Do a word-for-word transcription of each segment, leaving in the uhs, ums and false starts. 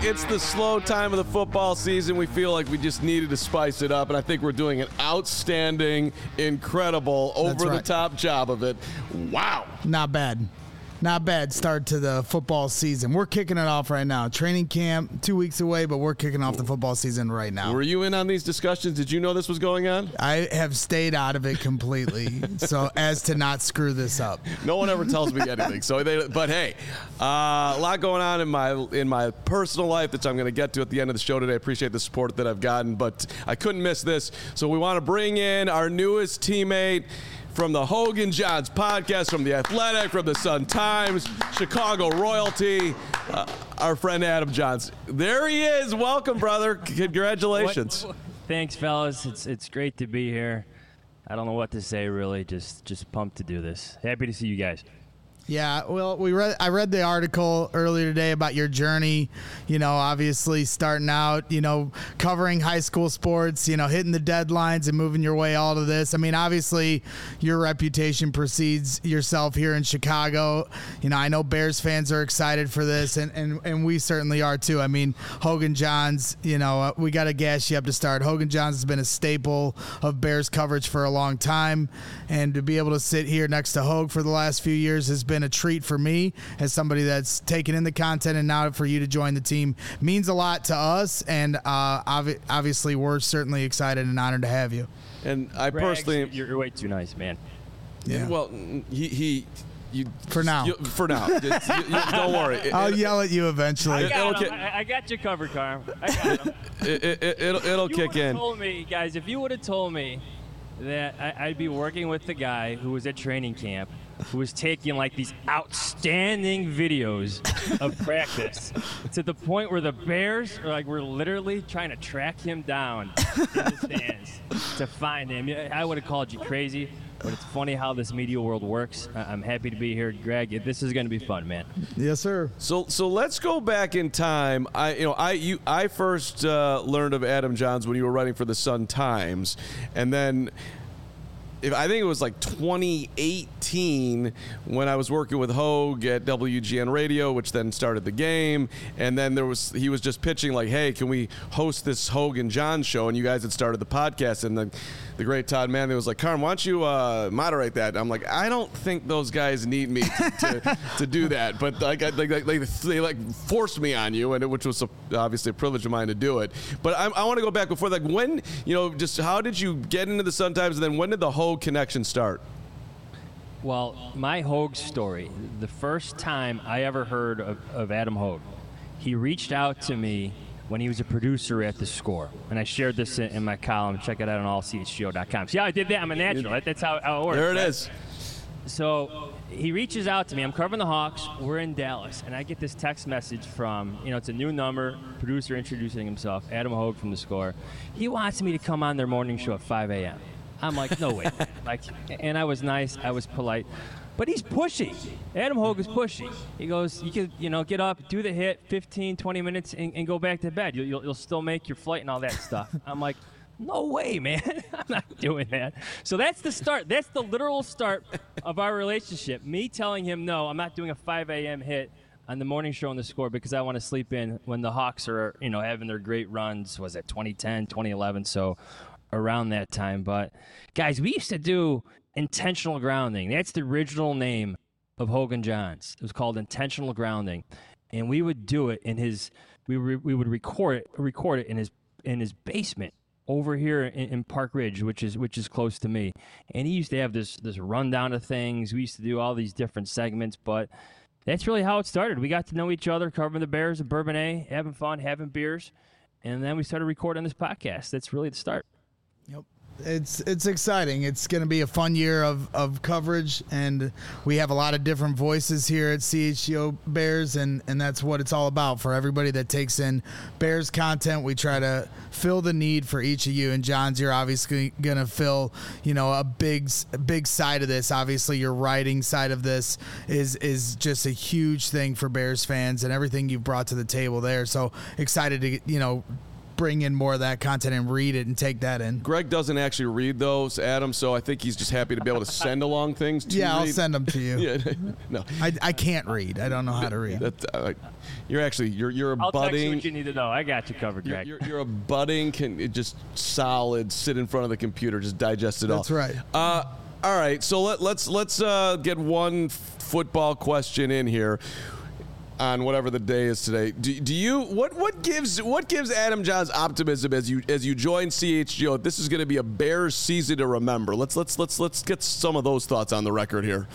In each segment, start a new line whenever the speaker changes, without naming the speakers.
it's the slow time of the football season. We feel like we just needed to spice it up, and I think we're doing an outstanding, incredible, over-the-top right. job of it. Wow.
Not bad. Not bad start to the football season. We're kicking it off right now. Training camp, two weeks away, but we're kicking off the football season right now.
Were you in on these discussions? Did you know this was going on?
I have stayed out of it completely, so as to not screw this up.
No one ever tells me anything. So, they, but hey, uh, a lot going on in my in my personal life that I'm going to get to at the end of the show today. I appreciate the support that I've gotten, but I couldn't miss this. So we want to bring in our newest teammate from the Hoge and Jahns podcast, from The Athletic, from the Sun-Times, Chicago royalty, uh, our friend Adam Jahns. There he is. Welcome, brother. Congratulations.
What, thanks, fellas. It's it's great to be here. I don't know what to say, really. Just just pumped to do this. Happy to see you guys.
Yeah, well, we read. I read the article earlier today about your journey. You know, obviously starting out, you know, covering high school sports, you know, hitting the deadlines and moving your way all to this. I mean, obviously, your reputation precedes yourself here in Chicago. You know, I know Bears fans are excited for this, and and, and we certainly are too. I mean, Hoge and Jahns, you know, uh, we got to gas you up to start. Hoge and Jahns has been a staple of Bears coverage for a long time, and to be able to sit here next to Hoge for the last few years has been a treat for me as somebody that's taken in the content, and now for you to join the team means a lot to us, and uh, ob- obviously we're certainly excited and honored to have you.
And I
Greg,
personally,
you're, you're way too nice, man.
Yeah. Well, he he. You,
for now.
You, for now. you, you, don't worry. It,
I'll
it,
yell at you eventually.
I got, him. I, I got you covered, Carm. I got him.
it, it, it, it'll it'll
you
kick in.
Told me, guys, if you would have told me that I, I'd be working with the guy who was at training camp, who was taking like these outstanding videos of practice to the point where the Bears are like, we're literally trying to track him down in the stands to find him. I would have called you crazy, but it's funny how this media world works. I'm happy to be here, Greg. This is going to be fun, man.
Yes, sir.
So, so let's go back in time. I, you know, I, you, I first uh, learned of Adam Jahns when you were writing for the Sun-Times, and then. If, I think it was like twenty eighteen when I was working with Hoge at W G N Radio, which then started the game. And then there was he was just pitching like, hey, can we host this Hoge and Jahns show? And you guys had started the podcast. And the, the great Todd Manley was like, Carm, why don't you uh, moderate that? I'm like, I don't think those guys need me to, to, to do that. But like, I, like, like, they like forced me on you, and it, which was a, obviously a privilege of mine to do it. But I, I want to go back before that. Like, when, you know, just how did you get into the Sun-Times? And then when did the Hoge connection start?
Well, my Hoge story, the first time I ever heard of, of Adam Hoge, he reached out to me when he was a producer at The Score. And I shared this in, in my column. Check it out on all c h g o dot com. See how I did that? I'm a natural. That, that's how, how it works.
There it
right?
is.
So he reaches out to me. I'm covering the Hawks. We're in Dallas. And I get this text message from, you know, it's a new number, producer introducing himself, Adam Hoge from The Score. He wants me to come on their morning show at five a.m. I'm like, no way. like, and I was nice. I was polite. But he's pushy. Adam Hoge is pushy. He goes, you can, you know, get up, do the hit, fifteen, twenty minutes, and, and go back to bed. You'll, you'll, you'll still make your flight and all that stuff. I'm like, no way, man. I'm not doing that. So that's the start. That's the literal start of our relationship. Me telling him, no, I'm not doing a five a.m. hit on the morning show on The Score because I want to sleep in when the Hawks are, you know, having their great runs. Was it twenty ten, twenty eleven? So around that time. But, guys, we used to do Intentional Grounding. That's the original name of Hoge and Jahns. It was called Intentional Grounding. And we would do it in his we re, we would record it record it in his in his basement over here in, in Park Ridge, which is which is close to me. And he used to have this this rundown of things. We used to do all these different segments, but that's really how it started. We got to know each other, covering the Bears at Bourbonnais, having fun, having beers, and then we started recording this podcast. That's really the start.
Yep. It's it's exciting. It's going to be a fun year of, of coverage, and we have a lot of different voices here at C H G O Bears, and, and that's what it's all about. For everybody that takes in Bears content, we try to fill the need for each of you. And Jahns, you're obviously going to fill, you know, a big big side of this. Obviously, your writing side of this is is just a huge thing for Bears fans, and everything you've brought to the table there. So excited to, you know, bring in more of that content and read it and take that in.
Greg doesn't actually read those, Adam, so I think he's just happy to be able to send along things to
Yeah,
read.
I'll send them to you.
Yeah, no.
I, I can't read. I don't know how to read.
That, uh, you're actually you're you're a
I'll
budding.
text you what you need to know. I got you covered,
You're,
Greg.
you're, you're a budding, can it just solid, sit in front of the computer, just digest it all.
That's right.
Uh, all right, so let, let's let's uh, get one f- football question in here on whatever the day is today. Do, do you what what gives what gives Adam Johns optimism as you as you join C H G O? This is going to be a Bears season to remember. Let's let's let's let's get some of those thoughts on the record here.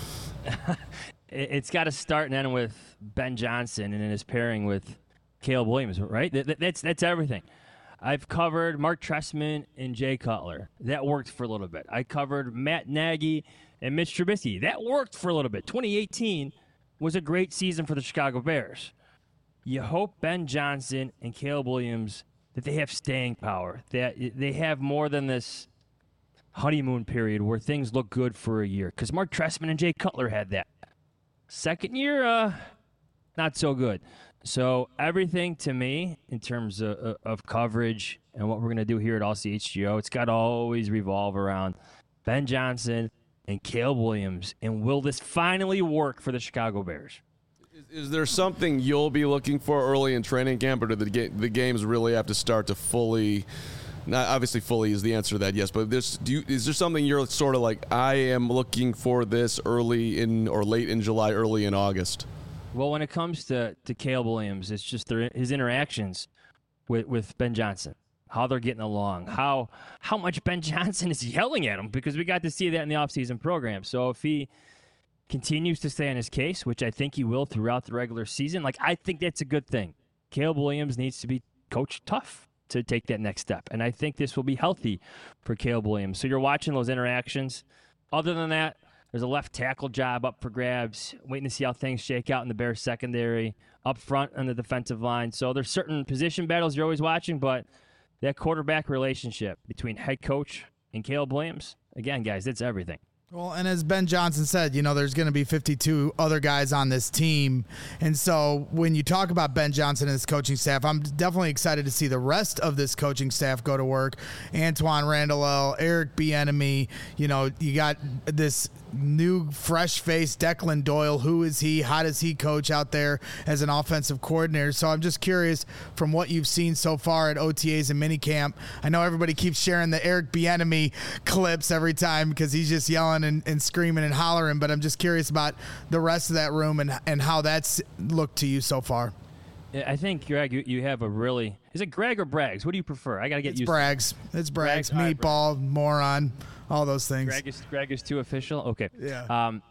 It's got to start and end with Ben Johnson and in his pairing with Caleb Williams, right? That's that's everything. I've covered Mark Trestman and Jay Cutler. That worked for a little bit. I covered Matt Nagy and Mitch Trubisky. That worked for a little bit. twenty eighteen was a great season for the Chicago Bears. You hope Ben Johnson and Caleb Williams, that they have staying power, that they have more than this honeymoon period where things look good for a year. Because Mark Trestman and Jay Cutler had that. Second year, uh, not so good. So everything to me in terms of, of coverage and what we're going to do here at All C H G O, it's got to always revolve around Ben Johnson and Caleb Williams. And will this finally work for the Chicago Bears?
Is, is there something you'll be looking for early in training camp, or do the, ga- the games really have to start to fully – not obviously fully is the answer to that, yes, but this, do you, is there something you're sort of like, I am looking for this early in or late in July, early in August?
Well, when it comes to, to Caleb Williams, it's just their, his interactions with, with Ben Johnson, how they're getting along, how how much Ben Johnson is yelling at him, because we got to see that in the offseason program. So if he continues to stay on his case, which I think he will throughout the regular season, like I think that's a good thing. Caleb Williams needs to be coached tough to take that next step, and I think this will be healthy for Caleb Williams. So you're watching those interactions. Other than that, there's a left tackle job up for grabs, waiting to see how things shake out in the Bears secondary, up front on the defensive line. So there's certain position battles you're always watching, but that quarterback relationship between head coach and Caleb Williams, again, guys, it's everything.
Well, and as Ben Johnson said, you know, there's going to be fifty-two other guys on this team. And so when you talk about Ben Johnson and his coaching staff, I'm definitely excited to see the rest of this coaching staff go to work. Antoine Randall, Eric Bieniemy, you know, you got this new fresh face, Declan Doyle. Who is he? How does he coach out there as an offensive coordinator? So I'm just curious from what you've seen so far at O T As and minicamp. I know everybody keeps sharing the Eric Bieniemy clips every time because he's just yelling and, and screaming and hollering, but I'm just curious about the rest of that room and, and how that's looked to you so far.
I think, Greg, you, you have a really – is it Greg or Braggs? What do you prefer? I got to get
it's
used
Braggs.
to
It's Braggs.
Braggs. All right,
Meatball, moron, all those things.
Greg is, Greg is too official? Okay.
Yeah.
Um,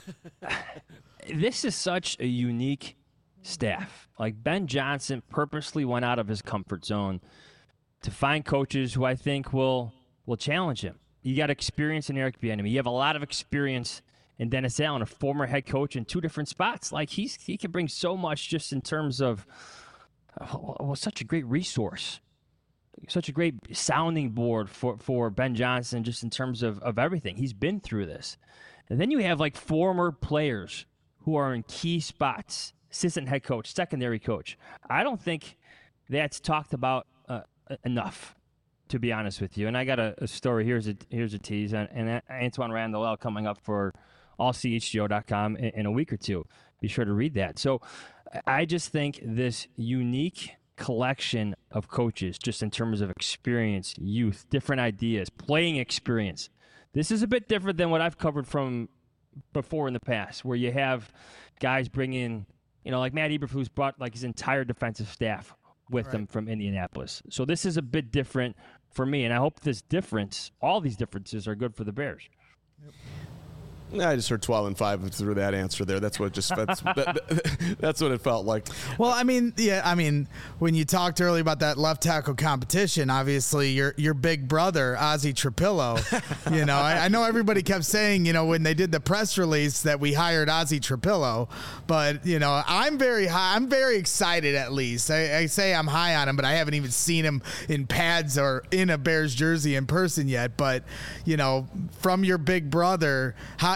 this is such a unique staff. Like, Ben Johnson purposely went out of his comfort zone to find coaches who I think will will challenge him. You got experience in Eric Bieniemy. You have a lot of experience in Dennis Allen, a former head coach in two different spots. Like, he's he can bring so much just in terms of oh, well, such a great resource, such a great sounding board for, for Ben Johnson just in terms of, of everything. He's been through this. And then you have, like, former players who are in key spots, assistant head coach, secondary coach. I don't think that's talked about uh, enough, to be honest with you. And I got a, a story. Here's a here's a tease. And, and Antoine Randall coming up for all C H G O dot com in, in a week or two. Be sure to read that. So I just think this unique collection of coaches, just in terms of experience, youth, different ideas, playing experience. This is a bit different than what I've covered from before in the past, where you have guys bring in, you know, like Matt Eberflus brought like his entire defensive staff with
Right.
them from Indianapolis. So this is a bit different for me, and I hope this difference, all these differences, are good for the Bears.
Yep.
I just heard twelve and five through that answer there. That's what it just that's that, that's what it felt like.
Well, I mean, yeah, I mean, when you talked earlier about that left tackle competition, obviously your your big brother Ozzie Trapillo, you know, I, I know everybody kept saying, you know, when they did the press release that we hired Ozzie Trapillo, but you know, I'm very high, I'm very excited at least. I, I say I'm high on him, but I haven't even seen him in pads or in a Bears jersey in person yet. But you know, from your big brother, how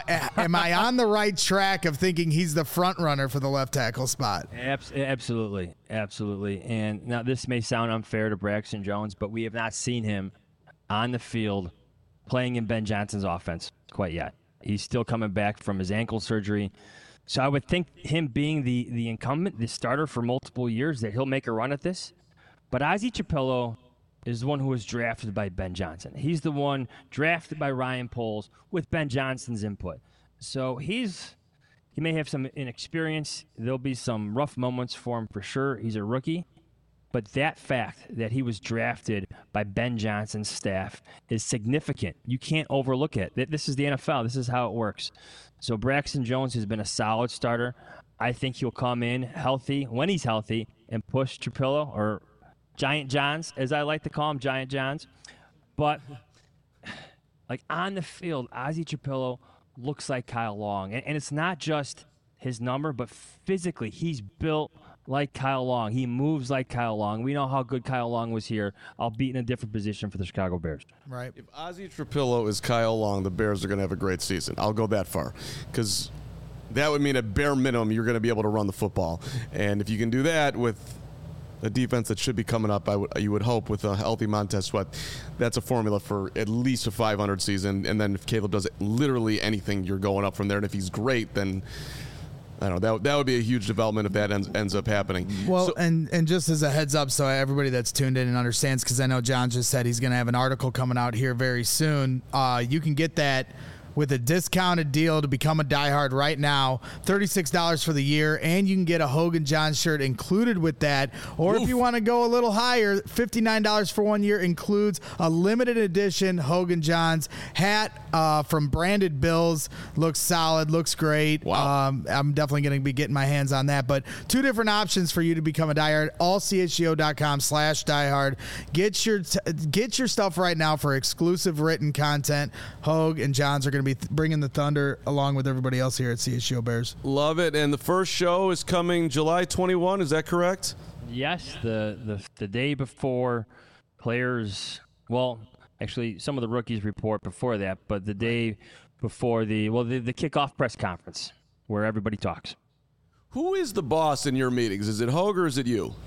I am I on the right track of thinking he's the front runner for the left tackle spot?
Abs- absolutely, absolutely. And now this may sound unfair to Braxton Jones, but we have not seen him on the field playing in Ben Johnson's offense quite yet. He's still coming back from his ankle surgery. So I would think him being the, the incumbent, the starter for multiple years, that he'll make a run at this. But Ozzie Chiapello is the one who was drafted by Ben Johnson. He's the one drafted by Ryan Poles with Ben Johnson's input. So he's he may have some inexperience. There'll be some rough moments for him for sure. He's a rookie. But that fact that he was drafted by Ben Johnson's staff is significant. You can't overlook it. This is the N F L. This is how it works. So Braxton Jones has been a solid starter. I think he'll come in healthy, when he's healthy, and push Chiapello, or Giant Johns, as I like to call him, Giant Johns. But, like, on the field, Ozzie Chiapello looks like Kyle Long. And, and it's not just his number, but physically, he's built like Kyle Long. He moves like Kyle Long. We know how good Kyle Long was here, albeit in a different position for the Chicago Bears.
Right.
If Ozzie Chiapello is Kyle Long, the Bears are going to have a great season. I'll go that far, because that would mean at bare minimum you're going to be able to run the football. And if you can do that with a defense that should be coming up, I w- you would hope, with a healthy Montez Sweat, that's a formula for at least a five hundred season. And then if Caleb does literally anything, you're going up from there. And if he's great, then I don't know. That, that would be a huge development if that ends, ends up happening.
Well,
so,
and, and just as a heads up, so everybody that's tuned in and understands, because I know John just said he's going to have an article coming out here very soon. Uh, you can get that with a discounted deal to become a diehard right now, thirty-six dollars for the year, and you can get a Hogan Johns shirt included with that. Or Oof. If you want to go a little higher, fifty-nine dollars for one year includes a limited edition Hogan Johns hat uh, from Branded Bills. Looks solid, looks great.
Wow.
Um, I'm definitely going to be getting my hands on that. But two different options for you to become a diehard, all C H G O dot com slash diehard. Get your, t- get your stuff right now for exclusive written content. Hogue and Johns are going to be th- bringing the thunder along with everybody else here at C H G O Bears.
Love it. And the first show is coming July twenty-first. Is that correct?
Yes, the, the the day before players, well, actually some of the rookies report before that, but the day before the, well, the, the kickoff press conference where everybody talks.
Who is the boss in your meetings? Is it Hogue or is it you?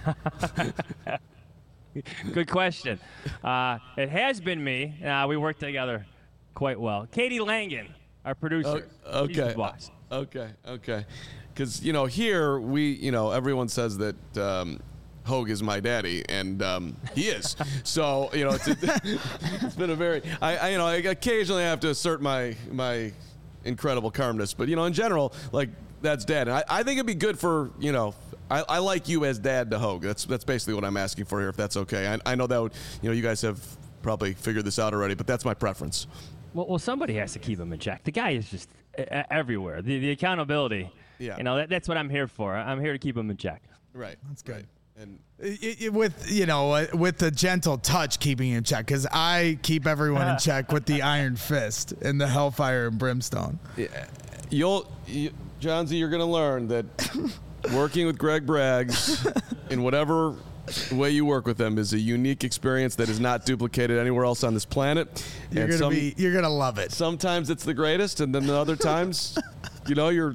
Good question. Uh, it has been me. Uh, we work together quite well. Katie Langan, our producer.
Uh, okay.
She's the boss.
Okay. Okay. Because, you know, here we, you know, everyone says that um, Hogue is my daddy, and um, he is. So, you know, it's, a, it's been a very, I, I, you know, I occasionally have to assert my my incredible calmness, but, you know, in general, like, that's dad. And I, I think it'd be good for, you know, I, I like you as dad to Hogue. That's that's basically what I'm asking for here, if that's okay. I, I know that would, you know, you guys have probably figured this out already, but that's my preference.
Well, well, somebody has to keep him in check. The guy is just uh, everywhere. The the accountability.
Yeah.
You know, that, that's what I'm here for. I'm here to keep him in check.
Right.
That's good.
Right. And
It, it, with you know uh, with the gentle touch keeping in check, because I keep everyone in check with the iron fist and the hellfire and brimstone.
Yeah, you'll, you, Johnsy, you're going to learn that working with Greg Braggs in whatever way you work with them is a unique experience that is not duplicated anywhere else on this planet.
You're
and
gonna
some,
be you're gonna love it.
Sometimes it's the greatest, and then the other times, you know, you're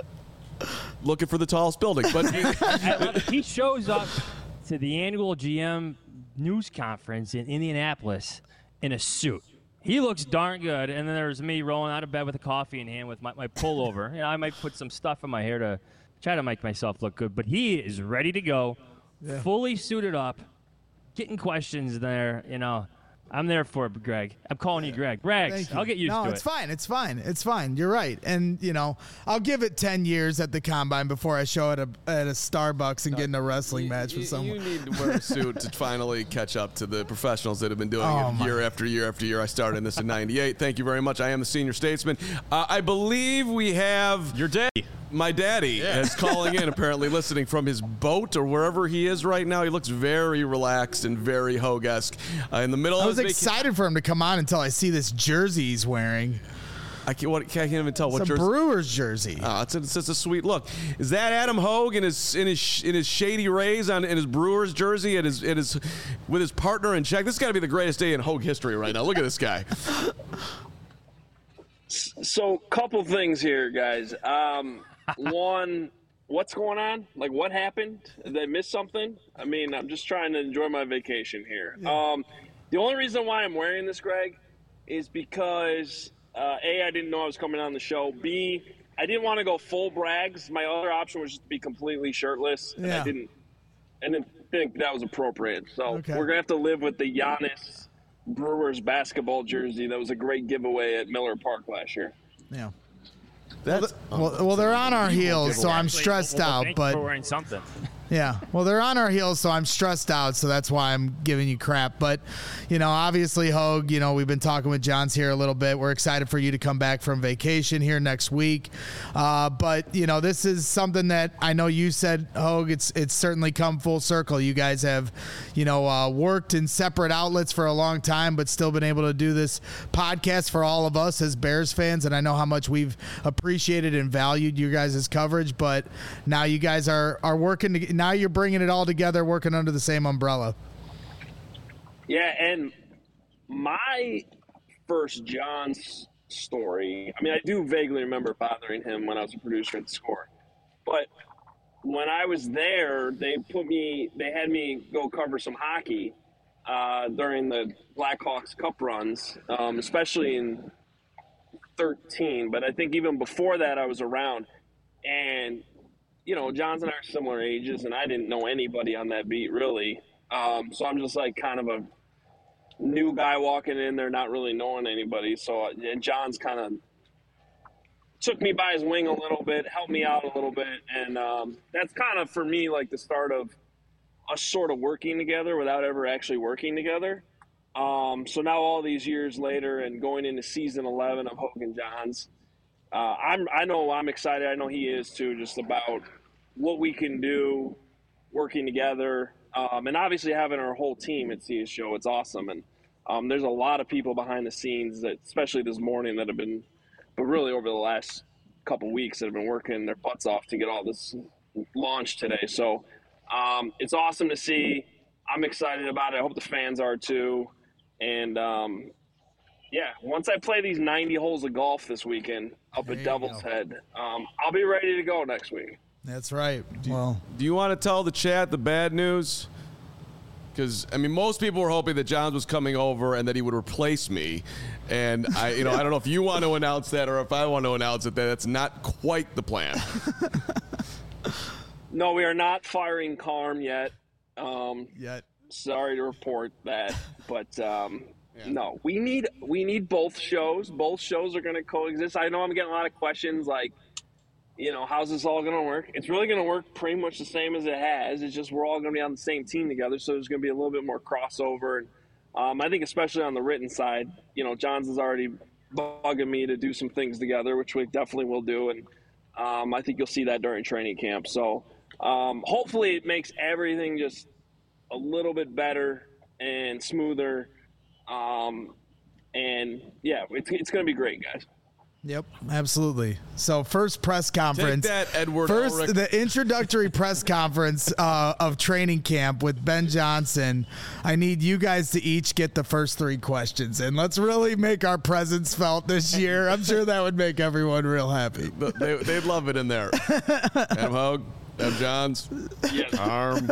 looking for the tallest building. But
He shows up to the annual G M news conference in Indianapolis in a suit. He looks darn good, and then there's me rolling out of bed with a coffee in hand with my, my pullover. You know, I might put some stuff in my hair to try to make myself look good, but he is ready to go, yeah. Fully suited up, getting questions there. You know, I'm there for it, Greg. I'm calling you Greg. Braggs, I'll get used
no,
to it.
No, it's fine. It's fine. It's fine. You're right. And, you know, I'll give it ten years at the Combine before I show at a at a Starbucks and no, get in a wrestling
you,
match
you,
with someone.
You need to wear a suit to finally catch up to the professionals that have been doing
oh
it year after year after year. I started in this in ninety-eight. Thank you very much. I am the senior statesman. Uh, I believe we have...
Your daddy.
My daddy yeah. is calling in, apparently listening from his boat or wherever he is right now. He looks very relaxed and very Hogue-esque. Uh, in the middle
I
of
was
his
excited vac- for him to come on until I see this jersey he's wearing.
I can't, what, can't even tell
it's
what
a
jersey.
Brewers jersey.
Oh, it's, a, it's just a sweet look. Is that Adam Hogue in his in his in his Shady Rays on in his Brewers jersey at his at his with his partner in check? This has got to be the greatest day in Hogue history right now. Look at this guy.
So, couple things here, guys. Um, one, what's going on? Like, what happened? Did I miss something? I mean, I'm just trying to enjoy my vacation here. Yeah. Um, the only reason why I'm wearing this, Greg, is because uh, A, I didn't know I was coming on the show. B, I didn't want to go full brags. My other option was just to be completely shirtless, and
yeah.
I didn't. I didn't think that was appropriate. So
okay.
we're gonna have to live with the Giannis Brewers basketball jersey that was a great giveaway at Miller Park last year.
Yeah.
That's
well, well, well they're on our heels, so I'm stressed
well, well,
out. But
we're wearing something.
Yeah, well, they're on our heels, so I'm stressed out, so that's why I'm giving you crap. But, you know, obviously, Hogue, you know, we've been talking with Johns here a little bit. We're excited for you to come back from vacation here next week. Uh, but, you know, this is something that I know you said, Hogue, it's it's certainly come full circle. You guys have, you know, uh, worked in separate outlets for a long time, but still been able to do this podcast for all of us as Bears fans. And I know how much we've appreciated and valued you guys' coverage, but now you guys are, are working to now you're bringing it all together, working under the same umbrella.
Yeah, and my first John's story, I mean, I do vaguely remember bothering him when I was a producer at the Score. But when I was there, they put me, they had me go cover some hockey uh, during the Blackhawks Cup runs, um, especially in thirteen. But I think even before that, I was around. And you know, Johns and I are similar ages, and I didn't know anybody on that beat, really. Um, so I'm just, like, kind of a new guy walking in there, not really knowing anybody. So and Johns kind of took me by his wing a little bit, helped me out a little bit. And um, that's kind of, for me, like the start of us sort of working together without ever actually working together. Um, so now all these years later and going into season eleven of Hogue and Johns, Uh, I'm, I know I'm excited. I know he is too, just about what we can do working together. Um, and obviously having our whole team at C S Show, it's awesome. And um, there's a lot of people behind the scenes that, especially this morning, that have been, but really over the last couple weeks that have been working their butts off to get all this launched today. So um, it's awesome to see. I'm excited about it. I hope the fans are too. And um, yeah, once I play these ninety holes of golf this weekend up there at Devil's Head, um, I'll be ready to go next week.
That's right.
Do,
well,
do you want to tell the chat the bad news? Because, I mean, most people were hoping that Johns was coming over and that he would replace me. And, I, you know, I don't know if you want to announce that or if I want to announce it, that that's not quite the plan.
No, we are not firing Carm yet. Um,
yet.
Sorry to report that. But, um,
yeah.
no, we need we need both shows. Both shows are going to coexist. I know I'm getting a lot of questions like, you know, how's this all going to work? It's really going to work pretty much the same as it has. It's just we're all going to be on the same team together, so there's going to be a little bit more crossover. And um, I think especially on the written side, you know, Johns is already bugging me to do some things together, which we definitely will do. And um, I think you'll see that during training camp. So um, hopefully it makes everything just a little bit better and smoother. Um, and, yeah, it's, it's going to be great, guys.
Yep, absolutely. So first press conference.
Take that, Edward
First,
Ulrich.
The introductory press conference uh, of training camp with Ben Johnson. I need you guys to each get the first three questions, and let's really make our presence felt this year. I'm sure that would make everyone real happy.
They, they'd love it in there. Adam Hogue, Ben Johns,
Yes.
Arm.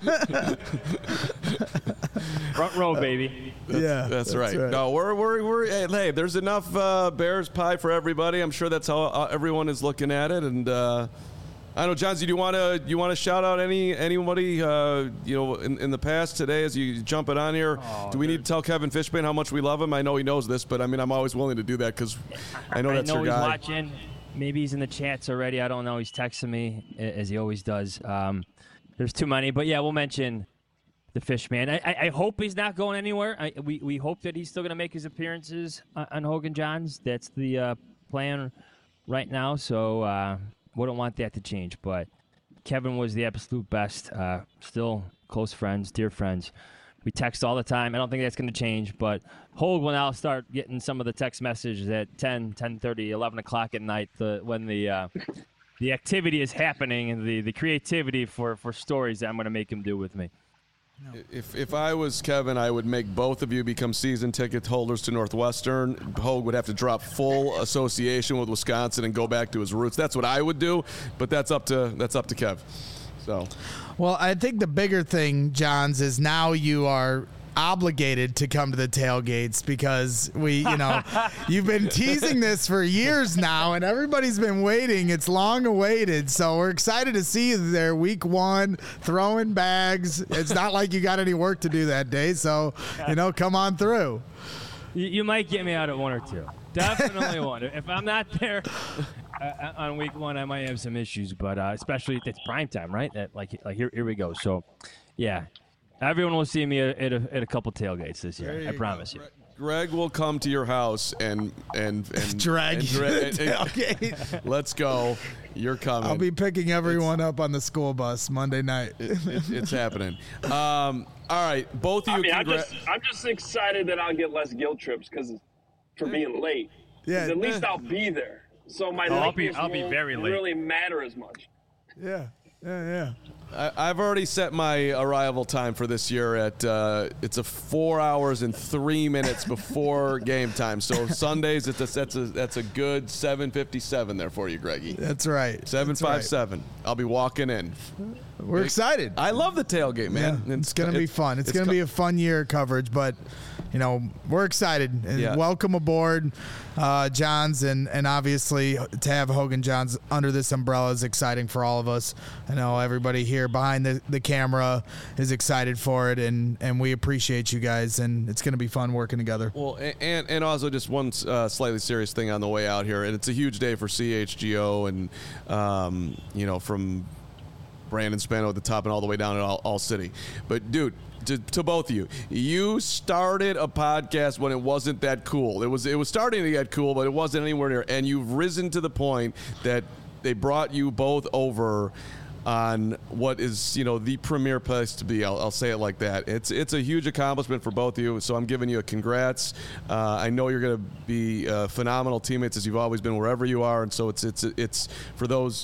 Front row, baby.
That's,
Yeah,
that's,
that's
right.
right.
No, we're we're we're hey, hey there's enough uh, Bears pie for everybody. I'm sure that's how uh, everyone is looking at it. And uh, I don't know, Johns, do you want to you want to shout out any anybody uh, you know in, in the past today as you jump it on here?
Oh,
do we need to tell Kevin Fishbane how much we love him? I know he knows this, but I mean I'm always willing to do that because I know that's
I know
your
he's
guy.
watching. Maybe he's in the chats already. I don't know. He's texting me as he always does. Um, there's too many, but yeah, we'll mention the fish man. I, I, I hope he's not going anywhere. I, we we hope that he's still going to make his appearances on, on Hogue and Johns. That's the uh, plan right now. So uh, we don't want that to change. But Kevin was the absolute best. Uh, still close friends, dear friends. We text all the time. I don't think that's going to change. But Hogue will now start getting some of the text messages at ten, ten thirty, eleven o'clock at night the, when the uh, the activity is happening and the, the creativity for, for stories that I'm going to make him do with me.
If if I was Kevin, I would make both of you become season ticket holders to Northwestern. Hogue would have to drop full association with Wisconsin and go back to his roots. That's what I would do, but that's up to that's up to Kev. So,
well, I think the bigger thing, Johns, is now you are obligated to come to the tailgates because we, you know, you've been teasing this for years now and everybody's been waiting. It's long awaited. So we're excited to see you there week one, throwing bags. It's not like you got any work to do that day. So, you know, come on through.
You, you might get me out at one or two. Definitely one. If I'm not there uh, on week one, I might have some issues, but uh, especially if it's prime time, right? That, like, like here, here we go. So, yeah. Everyone will see me at, at, a, at a couple tailgates this year. I promise go. you.
Greg will come to your house and and and
drag
and
you
dra-
to the tailgate.
Let's go. You're coming.
I'll be picking everyone it's, up on the school bus Monday night.
It, it, it's happening. Um, all right, both of you.
I mean,
congra-
I'm just I'm just excited that I'll get less guilt trips because for being late.
Yeah.
At least I'll be there, so my
oh, I'll
lateness
be I'll be
won't
very late.
really matter as much.
Yeah. Yeah. Yeah.
I, I've already set my arrival time for this year at uh, it's a four hours and three minutes before game time. So Sundays, it's a, that's a that's a good seven fifty-seven there for you, Greggy.
That's right.
Seven
That's
five
right.
seven. I'll be walking in.
We're excited.
I love the tailgate, man.
Yeah, it's, it's going to be fun. It's, it's going to
co-
be a fun year of coverage, but you know we're excited and
Yeah.
welcome aboard, uh, Johns, and and obviously to have Hogan Johns under this umbrella is exciting for all of us. I know everybody here behind the, the camera is excited for it, and and we appreciate you guys, and it's going to be fun working together.
Well, and and also just one uh, slightly serious thing on the way out here, and it's a huge day for C H G O, and um, you know from Brandon Spano at the top and all the way down at all, all City. But dude, to, to both of you, you started a podcast when it wasn't that cool. It was it was starting to get cool, but it wasn't anywhere near. And you've risen to the point that they brought you both over on what is, you know, the premier place to be. I'll, I'll say it like that. It's it's a huge accomplishment for both of you, so I'm giving you a congrats. Uh, I know you're going to be uh, phenomenal teammates as you've always been wherever you are, and so it's it's it's for those.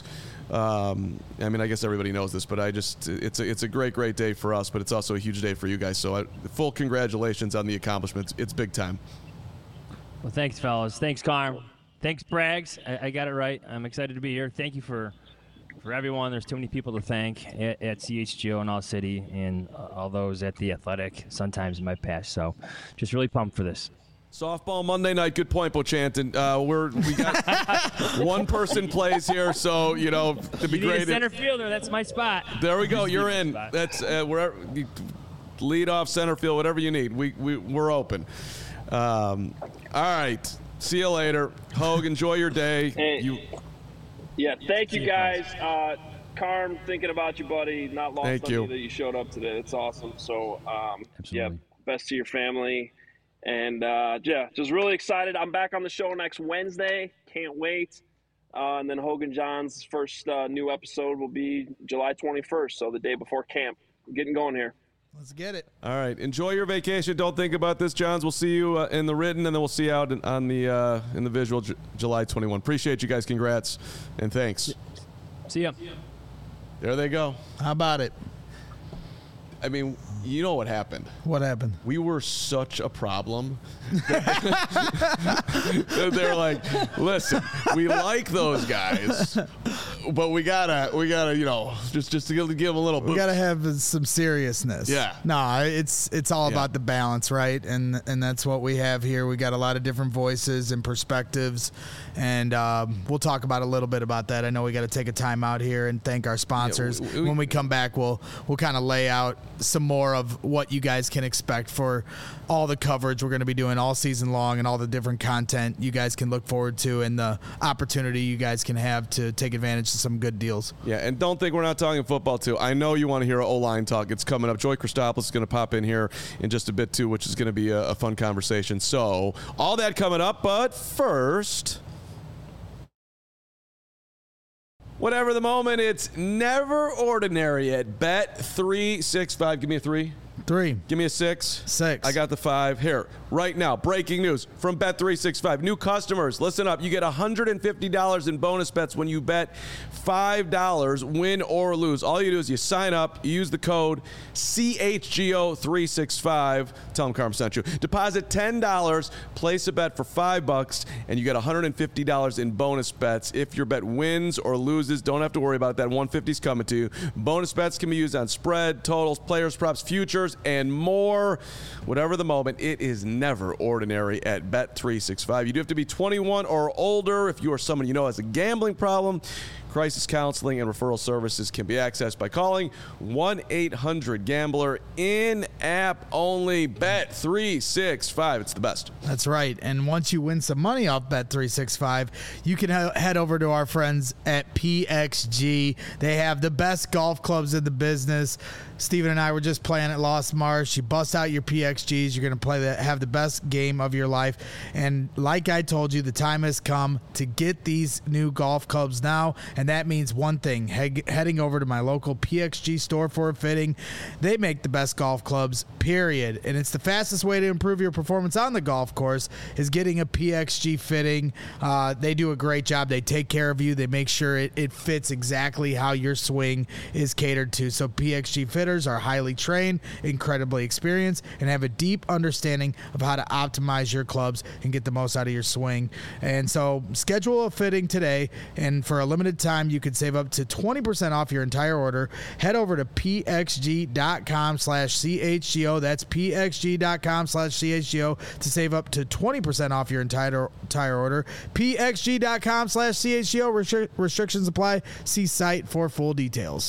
Um, I mean, I guess everybody knows this, but I just it's a, it's a great, great day for us, but it's also a huge day for you guys. So I, full congratulations on the accomplishments. It's big time.
Well, thanks, fellas. Thanks, Carm. Thanks, Braggs. I, I got it right. I'm excited to be here. Thank you for for everyone. There's too many people to thank at, at C H G O and All City and uh, all those at the Athletic sometimes in my past. So just really pumped for this.
Softball Monday night. Good point, Bochanton. Uh, we're we got one person plays here, so you know to be
You need
great.
a center fielder. That's my spot.
There we go.
Just
You're
leave
in.
the spot.
That's uh, wherever. You lead off, center field, whatever you need. We we we're open. Um, all right. See you later, Hogue. Enjoy your day.
Hey.
You.
Yeah, thank you
See you,
guys. Uh, Carm, thinking about you, buddy. Not lost
Thank
on
you.
you that you showed up today. It's awesome. So, um, yeah,
Absolutely.
best to your family. And, uh, yeah, just really excited. I'm back on the show next Wednesday. Can't wait. Uh, and then Hogan John's first uh, new episode will be July twenty-first, so the day before camp. We're getting going here.
Let's get it.
All right. Enjoy your vacation. Don't think about this, Johns. We'll see you uh, in the written, and then we'll see you out in, on the uh, in the visual J- July twenty-first. Appreciate you guys. Congrats and thanks.
See ya.
There they go.
How about it?
I mean, you know what happened.
What happened?
We were such a problem. They're like, listen, we like those guys, but we gotta, we gotta, you know, just just to give, give them a little.
We
boost.
got to have some seriousness.
Yeah.
No, it's it's all
Yeah.
about the balance, right? And and that's what we have here. We got a lot of different voices and perspectives, and um, we'll talk about a little bit about that. I know we got to take a time out here and thank our sponsors.
we- we-
when we come back, we'll we'll kind of lay out some more of what you guys can expect for all the coverage we're going to be doing all season long and all the different content you guys can look forward to and the opportunity you guys can have to take advantage of some good deals.
Yeah, and don't think we're not talking football, too. I know you want to hear O-line talk. It's coming up. Joey Christopoulos is going to pop in here in just a bit, too, which is going to be a, a fun conversation. So, all that coming up, but first, whatever the moment, it's never ordinary at Bet three sixty-five. Give me a three.
Three.
Give me a six.
Six.
I got the five. Here, right now, breaking news from Bet three sixty-five. New customers, listen up. You get one hundred fifty dollars in bonus bets when you bet five dollars, win or lose. All you do is you sign up, you use the code C H G O three sixty-five. Tell them Carm sent you. Deposit ten dollars, place a bet for five bucks, and you get one hundred fifty dollars in bonus bets. If your bet wins or loses, don't have to worry about that. one hundred fifty is coming to you. Bonus bets can be used on spread, totals, players, props, futures, and more. Whatever the moment, it is never ordinary at Bet three sixty-five. You do have to be twenty-one or older. If you are someone you know has a gambling problem, crisis counseling and referral services can be accessed by calling one eight hundred gambler. In-app only. Bet three sixty-five. It's the best.
That's right. And once you win some money off Bet three sixty-five, you can he- head over to our friends at P X G. They have the best golf clubs in the business. Steven and I were just playing at Lost Marsh. You bust out your P X Gs. You're going to play the, have the best game of your life. And like I told you, the time has come to get these new golf clubs now. And that means one thing, he- heading over to my local P X G store for a fitting. They make the best golf clubs, period. And it's the fastest way to improve your performance on the golf course is getting a P X G fitting. Uh, they do a great job. They take care of you. They make sure it, it fits exactly how your swing is catered to. So P X G fitters are highly trained, incredibly experienced, and have a deep understanding of how to optimize your clubs and get the most out of your swing. And so schedule a fitting today, and for a limited time, you can save up to twenty percent off your entire order. Head over to pxg.com slash CHGO. That's pxg.com slash CHGO to save up to twenty percent off your entire entire order. pxg.com slash CHGO. Restri- restrictions apply. See site for full details.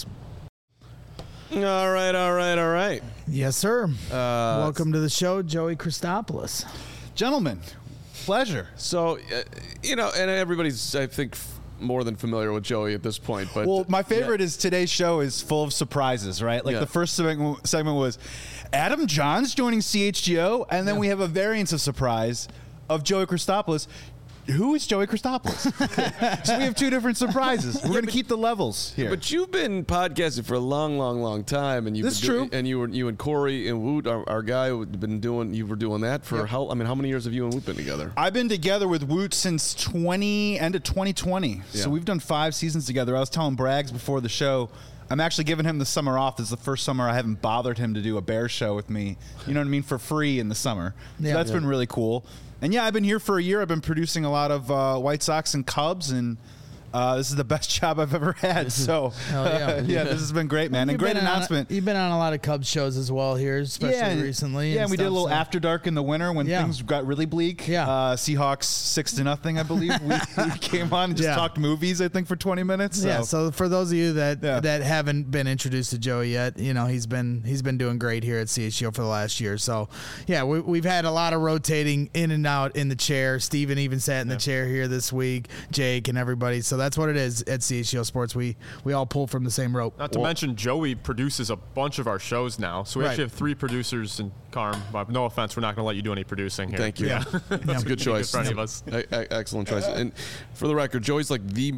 All right, all right, all right.
Yes, sir.
Uh,
Welcome to the show, Joey Christopoulos.
Gentlemen, pleasure.
So, uh, you know, and everybody's, I think, f- more than familiar with Joey at this point. But
Well, my favorite
yeah.
is today's show is full of surprises, right? Like
Yeah.
the first segment segment was Adam Johns joining C H G O, and then we have a variance of surprise of Joey Christopoulos. Who is Joey Christopoulos? So we have two different surprises. We're going to keep the levels here.
But you've been podcasting for a long, long, long time, and you've
That's
been doing,
true.
And you were you and Corey and Woot, our, our guy, have been doing. You were doing that for
Yep.
how? I mean, how many years have you and Woot been together?
I've been together with Woot since twenty end of twenty twenty.
Yeah.
So we've done five seasons together. I was telling Braggs before the show, I'm actually giving him the summer off. This is the first summer I haven't bothered him to do a Bears show with me. You know what I mean? For free in the summer. So
Yeah.
that's
Yeah.
been really cool. And yeah, I've been here for a year. I've been producing a lot of uh, White Sox and Cubs, and uh, this is the best job I've ever had. So
Hell yeah.
yeah, this has been great, man. And
You've
great
been on-
announcement.
you've been on a lot of Cubs shows as well here, especially
and-
recently.
Yeah,
and
and we did a
stuff,
little
so-
After Dark in the winter when
Yeah.
things got really bleak.
Yeah.
Uh, Seahawks six to nothing, I believe. We, we came on and just
Yeah.
talked movies, I think, for twenty minutes. So.
Yeah, so for those of you that
Yeah.
that haven't been introduced to Joey yet, you know he's been he's been doing great here at C H G O for the last year. So yeah, we, we've had a lot of rotating in and out in the chair. Steven even sat in the chair here this week, Jake and everybody. So that's what it is at C H G O Sports. We we all pull from the same rope.
Not to mention, Joey produces a bunch of our shows now. So we
Right.
actually have three producers in Carm. But no offense, we're not going to let you do any producing here.
Thank you.
Yeah.
That's a good choice.
for any of us.
E- e- excellent choice. And for the record, Joey's like the.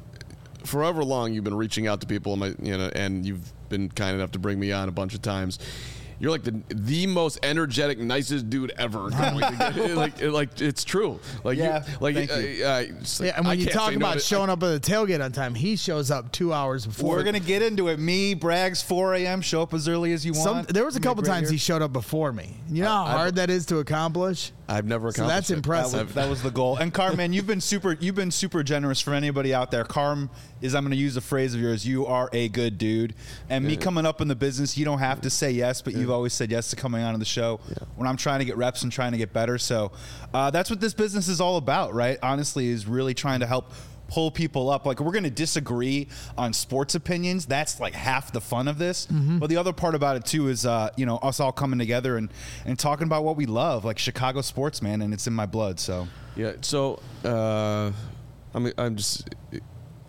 Forever long, you've been reaching out to people, in my, you know, and you've been kind enough to bring me on a bunch of times. You're like the the most energetic, nicest dude ever. like, like it's true. Like,
Yeah,
you, like,
thank
uh,
you.
uh, it's like,
Yeah, and when
I
you
can't
talk
say no
about
to-
showing up at the tailgate on time, he shows up two hours before.
We're going to get into it. Me, Braggs, four a.m., show up as early as you
Some,
want.
there was a
Make
couple
right
times
here.
he showed up before me. You know how
I-
hard that is to accomplish.
I've never
So
accomplished
that's
it.
That
impressive.
was, that was the goal. And Carm, man, you've been super. You've been super generous for anybody out there. Carm is. I'm going to use a phrase of yours. You are a good dude. And me coming up in the business, you don't have to say yes, but you've always said yes to coming on to the show when I'm trying to get reps and trying to get better. So uh, that's what this business is all about, right? Honestly, is really trying to help pull people up. Like, we're going to disagree on sports opinions. That's like half the fun of this. But the other part about it too is, uh, you know, us all coming together and, and talking about what we love, like Chicago sports, man. And it's in my blood. So
Yeah. So, uh, I'm I'm just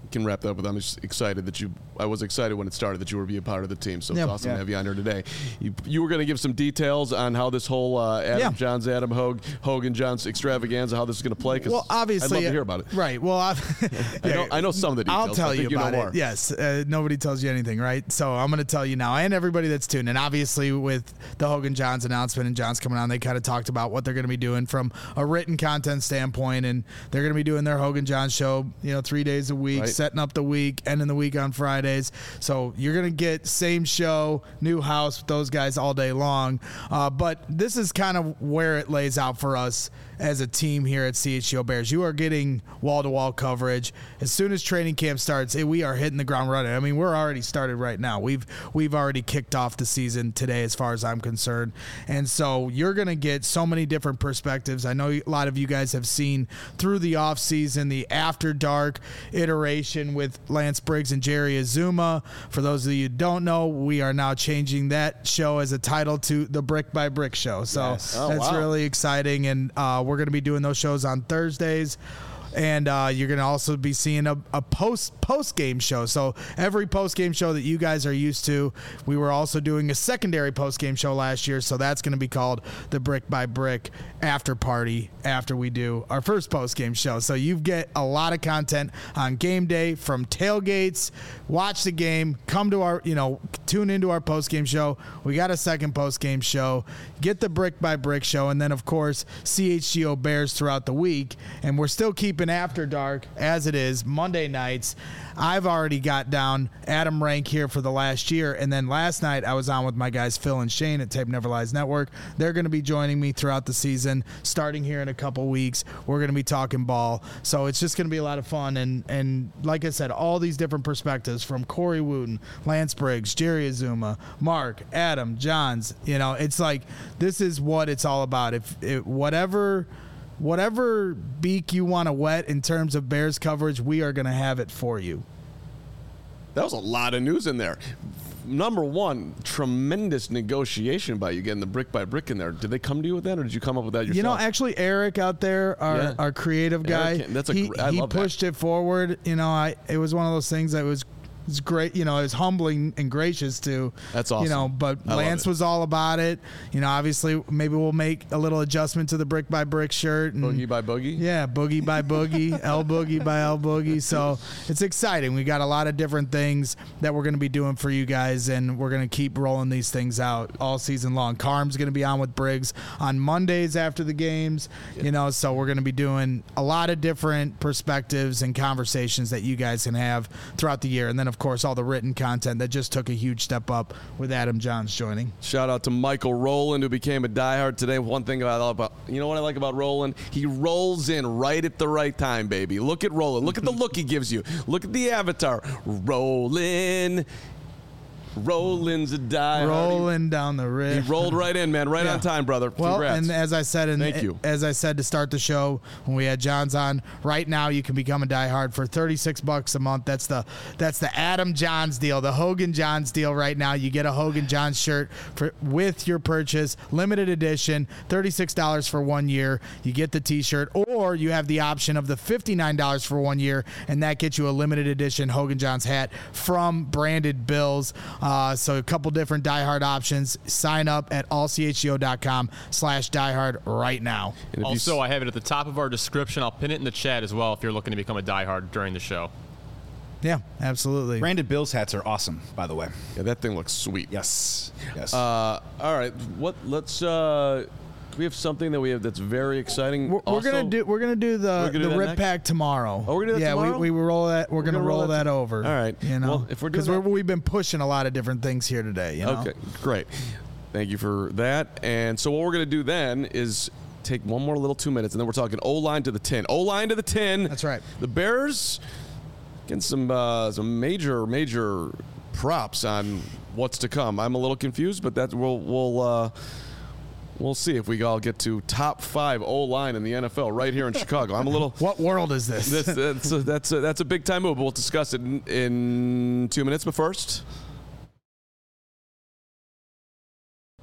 can wrap that up with. I'm just excited that you. I was excited when it started that you were being part of the team. So
Yeah.
it's awesome
Yeah.
to have you on here today. You, you were going to give some details on how this whole uh, Adam
Yeah.
Johns, Adam Hogue, Hogan Johns extravaganza, how this is going to play. Cause
Well, obviously,
I'd love to hear about it.
Right. Well, I,
I know, I know some of the details.
I'll tell
but I
you
think you
about
know
it.
more.
Yes, uh, nobody tells you anything, right? So I'm going to tell you now, and everybody that's tuned in. Obviously, with the Hogan Johns announcement and Johns coming on, they kind of talked about what they're going to be doing from a written content standpoint, and they're going to be doing their Hogan Johns show, you know, three days a week,
Right.
setting up the week, ending the week on Fridays. So you're going to get same show, new house with those guys all day long. Uh, but this is kind of where it lays out for us as a team here at C H G O Bears. You are getting wall-to-wall coverage. As soon as training camp starts, eh, we are hitting the ground running. I mean, we're already started right now. We've we've already kicked off the season today as far as I'm concerned. And so you're going to get so many different perspectives. I know a lot of you guys have seen through the offseason the After Dark iteration with Lance Briggs and Jerry Azuma. For those of you who don't know, we are now changing that show as a title to the Brick by Brick Show. So
Yes.
Oh,
that's
wow.
really exciting. And uh, we're going to be doing those shows on Thursdays. And uh, you're going to also be seeing a, a post post game show. So every post game show that you guys are used to, we were also doing a secondary post game show last year. So that's going to be called the Brick by Brick After Party after we do our first post game show. So you get a lot of content on game day, from tailgates, watch the game, come to our, you know, tune into our post game show. We got a second post game show, get the Brick by Brick show, and then of course C H G O Bears throughout the week. And we're still keeping After Dark as it is Monday nights. I've already got down Adam Rank here for the last year, and then last night I was on with my guys Phil and Shane at Tape Never Lies Network. They're going to be joining me throughout the season, starting here in a couple weeks. We're going to be talking ball, so it's just going to be a lot of fun. And and like I said, all these different perspectives from Corey Wooten, Lance Briggs, Jerry Azuma, Mark, Adam, Johns. You know, it's like this is what it's all about. If it, whatever. Whatever beak you want to wet in terms of Bears coverage, we are going to have it for you.
That was a lot of news in there. Number one, tremendous negotiation by you getting the brick by brick in there. Did they come to you with that, or did you come up with that yourself?
You know, actually, Eric out there, our,
Yeah.
our creative guy,
Eric, that's a
he,
gr- I
he
love that.
pushed it forward. You know, I it was one of those things that was was great. You know, it was humbling and gracious to.
That's
You
awesome.
know, but
I love
Lance
it.
was all about it. You know, obviously, maybe we'll make a little adjustment to the brick by brick shirt. And,
Boogie by Boogie?
Yeah, Boogie by Boogie, L Boogie by L Boogie. So it's exciting. We got a lot of different things that we're going to be doing for you guys, and we're going to keep rolling these things out all season long. Carm's going to be on with Briggs on Mondays after the games, you know, so we're going to be doing a lot of different perspectives and conversations that you guys can have throughout the year. And then, of course, all the written content that just took a huge step up with Adam Johns joining.
Shout out to Michael Rowland, who became a diehard today. One thing I love about, you know what I like about Rowland? He rolls in right at the right time, baby. Look at Rowland. Look at the look he gives you. Look at the avatar. Rollin'. Roland's a diehard.
Rolling down the
He
river.
rolled right in, man. Right
Yeah.
on time, brother.
Well,
Congrats.
and as I said, in,
Thank you.
as I said to start the show when we had Johns on, right now you can become a diehard for thirty-six bucks a month. That's the that's the Adam Johns deal, the Hogan Johns deal. Right now, you get a Hogan Johns shirt for with your purchase, limited edition, thirty-six dollars for one year. You get the T-shirt, or you have the option of the fifty-nine dollars for one year, and that gets you a limited edition Hogan Johns hat from Branded Bills. Uh, so a couple different diehard options. Sign up at all c h g o dot com slash diehard right now.
And if you
Also,
s-
I have it at the top of our description. I'll pin it in the chat as well if you're looking to become a diehard during the show.
Yeah, absolutely.
Branded Bills hats are awesome, by the way.
yeah, that thing looks sweet.
Yes. Yes.
Uh, all right. What? Let's. Uh, we have something that we have that's very exciting.
We're, we're
Also-
gonna do we're gonna do the
We're gonna do
the
that
rip
next?
pack tomorrow.
Oh, we're gonna do that
yeah,
tomorrow?
we we roll that. We're, gonna,
gonna
roll,
roll that
that
to-
over.
All right.
You know,
Well, if we're doing
because
that-
we've been pushing a lot of different things here today. You know?
Okay, great. Thank you for that. And so what we're going to do then is take one more little two minutes, and then we're talking O-line to the ten. O-line to the ten.
That's right.
The Bears getting some uh, some major, major props on what's to come. I'm a little confused, but that we'll we'll uh, we'll see if we all get to top five O-line in the N F L right here in Chicago. I'm a little.
What world is this?
This, that's a, that's a, that's a big time move, but we'll discuss it in, in two minutes. But first.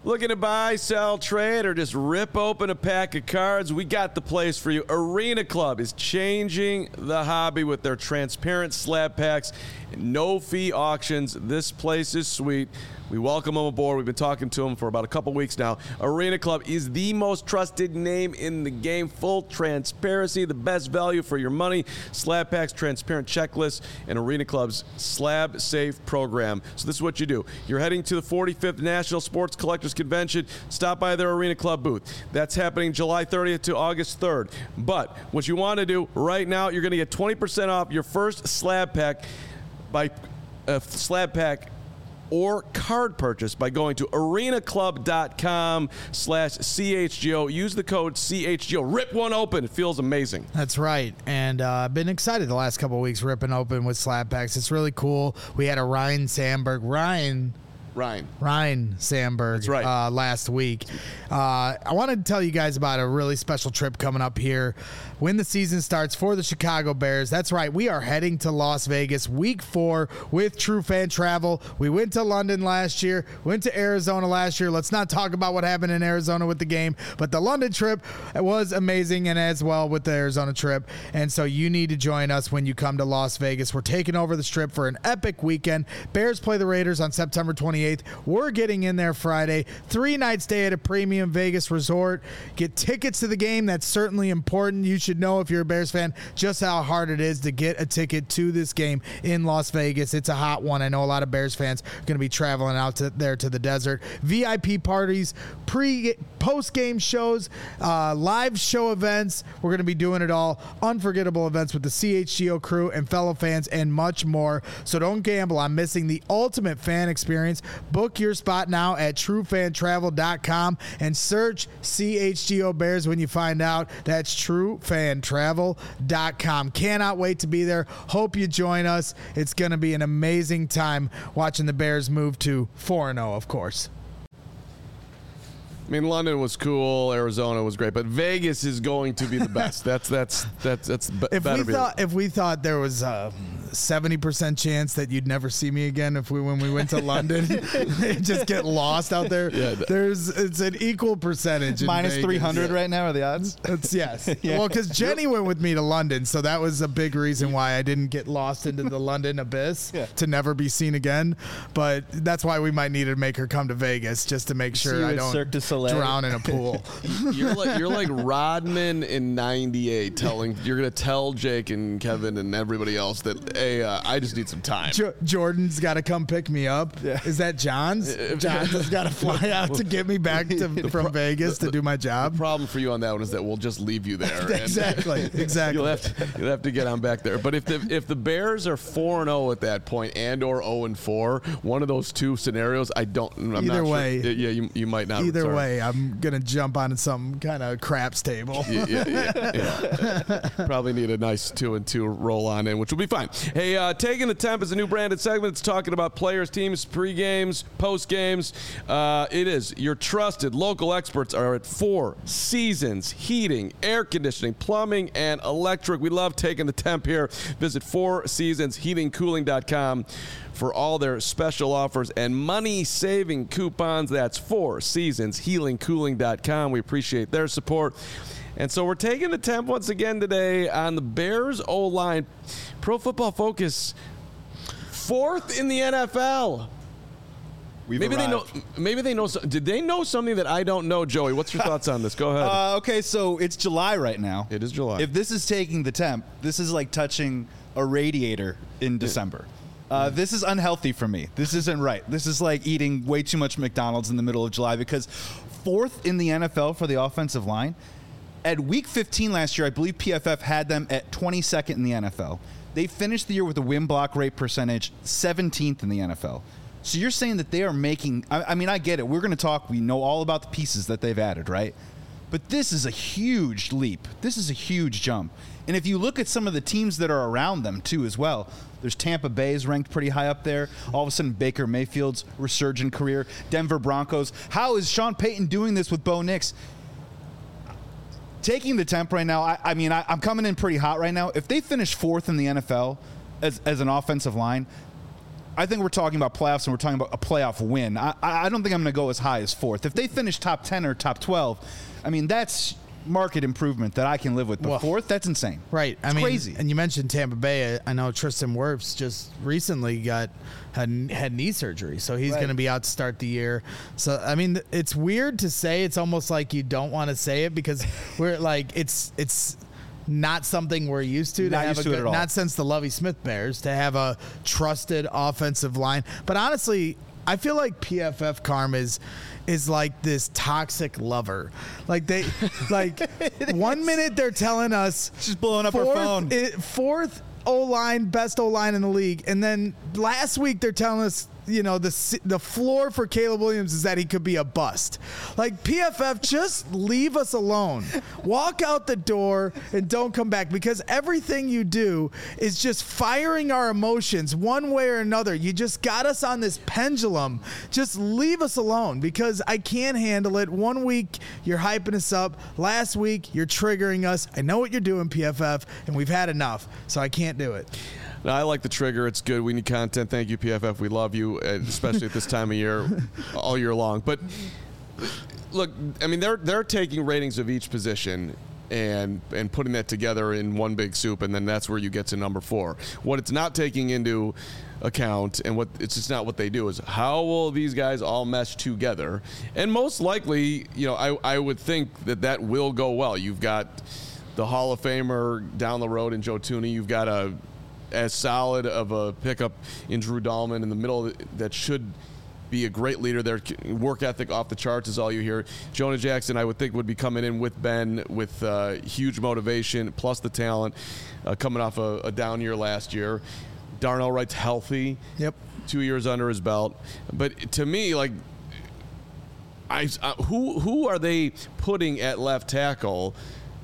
Looking to buy, sell, trade, or just rip open a pack of cards? We got the place for you. Arena Club is changing the hobby with their transparent slab packs and no-fee auctions. This place is sweet. We welcome them aboard. We've been talking to them for about a couple weeks now. Arena Club is the most trusted name in the game. Full transparency, the best value for your money. Slab packs, transparent checklists, and Arena Club's Slab Safe program. So this is what you do. You're heading to the forty-fifth National Sports Collectors Convention. Stop by their Arena Club booth. That's happening July thirtieth to August third. But what you want to do right now, you're going to get twenty percent off your first slab pack by a slab pack or card purchase by going to arenaclub.com slash CHGO. Use the code C H G O. Rip one open. It feels amazing.
That's right. And uh, I've been excited the last couple of weeks ripping open with slab packs. It's really cool. We had a Ryan Sandberg. Ryan...
Ryan.
Ryan Sandberg.
That's right.
Uh, last week. Uh, I wanted to tell you guys about a really special trip coming up here when the season starts for the Chicago Bears. That's right. We are heading to Las Vegas week four with True Fan Travel. We went to London last year, went to Arizona last year. Let's not talk about what happened in Arizona with the game, but the London trip was amazing, and as well with the Arizona trip. And so you need to join us when you come to Las Vegas. We're taking over the Strip for an epic weekend. Bears play the Raiders on September twenty-eighth. We're getting in there Friday. Three night stay at a premium Vegas resort. Get tickets to the game. That's certainly important. You should know, if you're a Bears fan, just how hard it is to get a ticket to this game in Las Vegas. It's a hot one. I know a lot of Bears fans are going to be traveling out to there to the desert. V I P parties, pre, post-game shows, uh, live show events. We're going to be doing it all. Unforgettable events with the C H G O crew and fellow fans and much more. So don't gamble on missing the ultimate fan experience. Book your spot now at true fan travel dot com and search C H G O Bears when you find out. That's true fan travel dot com. Cannot wait to be there. Hope you join us. It's going to be an amazing time watching the Bears move to four and oh, of course.
I mean, London was cool, Arizona was great, but Vegas is going to be the best. That's that's that's that's b-
if
better
we
be
thought if we thought there was a seventy percent chance that you'd never see me again if we when we went to London, just get lost out there. Yeah, there's it's an equal percentage.
Minus three hundred
yeah.
right now are the odds.
It's yes. yeah. Well, because Jenny went with me to London, so that was a big reason why I didn't get lost into the London abyss yeah. to never be seen again. But that's why we might need to make her come to Vegas just to make sure I don't drown in a pool.
You're like you're like Rodman in ninety-eight telling you're gonna tell Jake and Kevin and everybody else that hey uh, I just need some time.
Jo- Jordan's got to come pick me up. Yeah. Is that John's? John's has got to fly out to get me back to, from Vegas to do my job.
The problem for you on that one is that we'll just leave you there.
exactly. Exactly.
You'll have to you'll have to get on back there. But if the if the Bears are four and zero at that point and or zero and four, one of those two scenarios, I don't. I'm
Either
not
way,
sure. yeah, you you might not.
Either
return.
way, I'm gonna jump on some kind of craps table.
yeah, yeah, yeah, yeah. Probably need a nice two and two roll on in, which will be fine. Hey, uh, Taking the Temp is a new branded segment. It's talking about players, teams, pre-games, post-games. Uh, it is. Your trusted local experts are at Four Seasons Heating, Air Conditioning, Plumbing, and Electric. We love Taking the Temp here. Visit four seasons heating cooling dot com for all their special offers and money-saving coupons. That's Four Seasons Heating Cooling dot com. We appreciate their support. And so we're taking the temp once again today on the Bears O-line. Pro Football Focus, fourth in the N F L.
We've
maybe
arrived.
they know. Maybe they know. Did they know something that I don't know, Joey? What's your thoughts on this? Go ahead.
Uh, okay, so it's July right now.
It is July.
If this is taking the temp, this is like touching a radiator in December. Uh, this is unhealthy for me. This isn't right. This is like eating way too much McDonald's in the middle of July because fourth in the N F L for the offensive line. At week fifteen last year, I believe P F F had them at twenty-second in the N F L. They finished the year with a win block rate percentage seventeenth in the N F L. So you're saying that they are making, I, I mean, I get it. We're going to talk, we know all about the pieces that they've added, right? But this is a huge leap. This is a huge jump. And if you look at some of the teams that are around them, too, as well, there's Tampa Bay is ranked pretty high up there. All of a sudden, Baker Mayfield's resurgent career. Denver Broncos. How is Sean Payton doing this with Bo Nix? Taking the temp right now, I, I mean, I, I'm coming in pretty hot right now. If they finish fourth in the N F L as, as an offensive line, I think we're talking about playoffs and we're talking about a playoff win. I, I don't think I'm going to go as high as fourth. If they finish top ten or top twelve, I mean, that's market improvement that I can live with. But
Well,
fourth, that's insane.
Right. I
It's
mean,
crazy.
And you mentioned Tampa Bay. I know Tristan Wirfs just recently got had had knee surgery, so he's
Right.
going to be out to start the year. So I mean, it's weird to say. It's almost like you don't want to say it because we're like it's it's. Not something we're used to. to
Not
have
used
a
to it
good,
at all.
Not since the Lovie Smith Bears to have a trusted offensive line. But honestly, I feel like P F F Carm is is like this toxic lover. Like they, like one minute they're telling us
She's blowing up her
fourth,
phone.
i- fourth O line, best O line in the league, and then last week they're telling us, you know, the c- the floor for Caleb Williams is that he could be a bust. Like P F F, just leave us alone. Walk out the door and don't come back because everything you do is just firing our emotions one way or another. You just got us on this pendulum. Just leave us alone because I can't handle it. One week you're hyping us up. Last week you're triggering us. I know what you're doing, P F F, and we've had enough, so I can't do it.
No, I like the trigger. It's good. We need content. Thank you, P F F. We love you, and especially at this time of year, all year long. But look, I mean, they're they're taking ratings of each position and and putting that together in one big soup, and then that's where you get to number four. What it's not taking into account, and what it's just not what they do, is how will these guys all mesh together? And most likely, you know, I I would think that that will go well. You've got the Hall of Famer down the road in Joe Thuney. You've got a as solid of a pickup in Drew Dahlman in the middle that should be a great leader there. Work ethic off the charts is all you hear. Jonah Jackson, I would think, would be coming in with Ben with uh, huge motivation, plus the talent, uh, coming off a, a down year last year. Darnell Wright's healthy.
Yep.
Two years under his belt. But to me, like, I, uh, who who are they putting at left tackle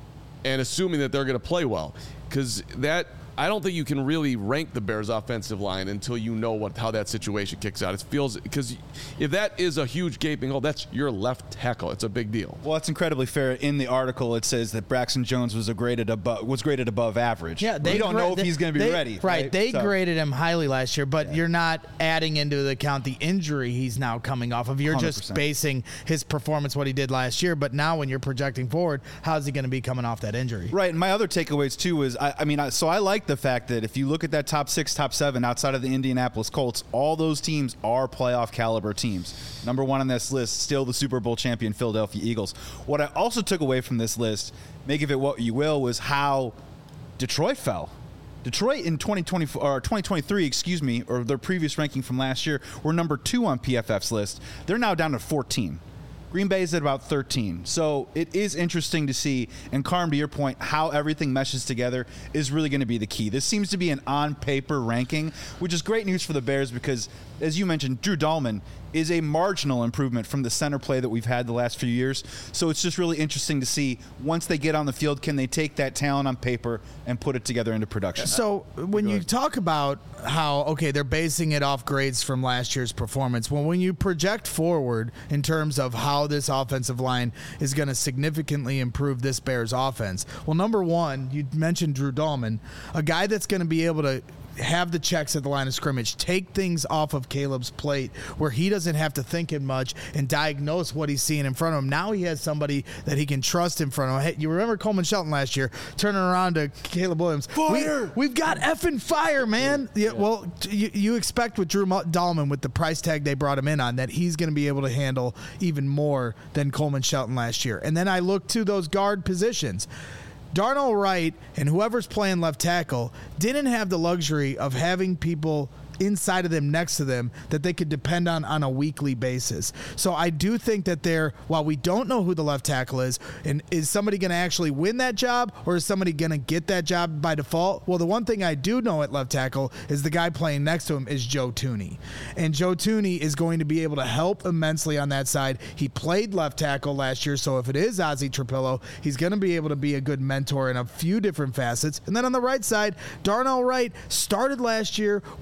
and assuming that they're going to play well? Because that, I don't think you can really rank the Bears' offensive line until you know what how that situation kicks out. It feels, because if that is a huge gaping hole, that's your left tackle. It's a big deal.
Well, it's incredibly fair. In the article, it says that Braxton Jones was a graded above was graded above average.
Yeah, they
we don't
gra-
know if
they-
he's going to be
they-
ready.
Right, they
So-
graded him highly last year, but you're not adding into the account the injury he's now coming off of. You're
one hundred
just
percent.
basing his performance what he did last year. But now, when you're projecting forward, how's he going to be coming off that injury?
Right, and my other takeaways too is, I, I mean, I, so I like the fact that if you look at that top six, top seven outside of the Indianapolis Colts, all those teams are playoff caliber teams. Number one on this list, still the Super Bowl champion Philadelphia Eagles. What I also took away from this list, make of it what you will, was how Detroit fell. Detroit in twenty twenty or twenty twenty-three, excuse me, or their previous ranking from last year, were number two on P F F's list. They're now down to fourteen. Green Bay is at about thirteen. So it is interesting to see, and Carm, to your point, how everything meshes together is really going to be the key. This seems to be an on-paper ranking, which is great news for the Bears because, as you mentioned, Drew Dahlman is a marginal improvement from the center play that we've had the last few years. So it's just really interesting to see, once they get on the field, can they take that talent on paper and put it together into production?
So when you talk about how, okay, they're basing it off grades from last year's performance, well, when you project forward in terms of how this offensive line is going to significantly improve this Bears offense, well, number one, you mentioned Drew Dahlman, a guy that's going to be able to have the checks at the line of scrimmage, take things off of Caleb's plate where he doesn't have to think it much and diagnose what he's seeing in front of him. Now he has somebody that he can trust in front of him. Hey, you remember Coleman Shelton last year turning around to Caleb Williams.
Fire!
We, we've got effing fire, man. Yeah, well, t- you, you expect with Drew Mu- Dahlman, with the price tag they brought him in on, that he's going to be able to handle even more than Coleman Shelton last year. And then I look to those guard positions. Darnell Wright and whoever's playing left tackle didn't have the luxury of having people inside of them, next to them, that they could depend on on a weekly basis. So I do think that they're, while we don't know who the left tackle is, and is somebody going to actually win that job, or is somebody going to get that job by default? Well, the one thing I do know at left tackle is the guy playing next to him is Joe Thuney. And Joe Thuney is going to be able to help immensely on that side. He played left tackle last year, so if it is Ozzie Trapillo, he's going to be able to be a good mentor in a few different facets. And then on the right side, Darnell Wright started last year with Nate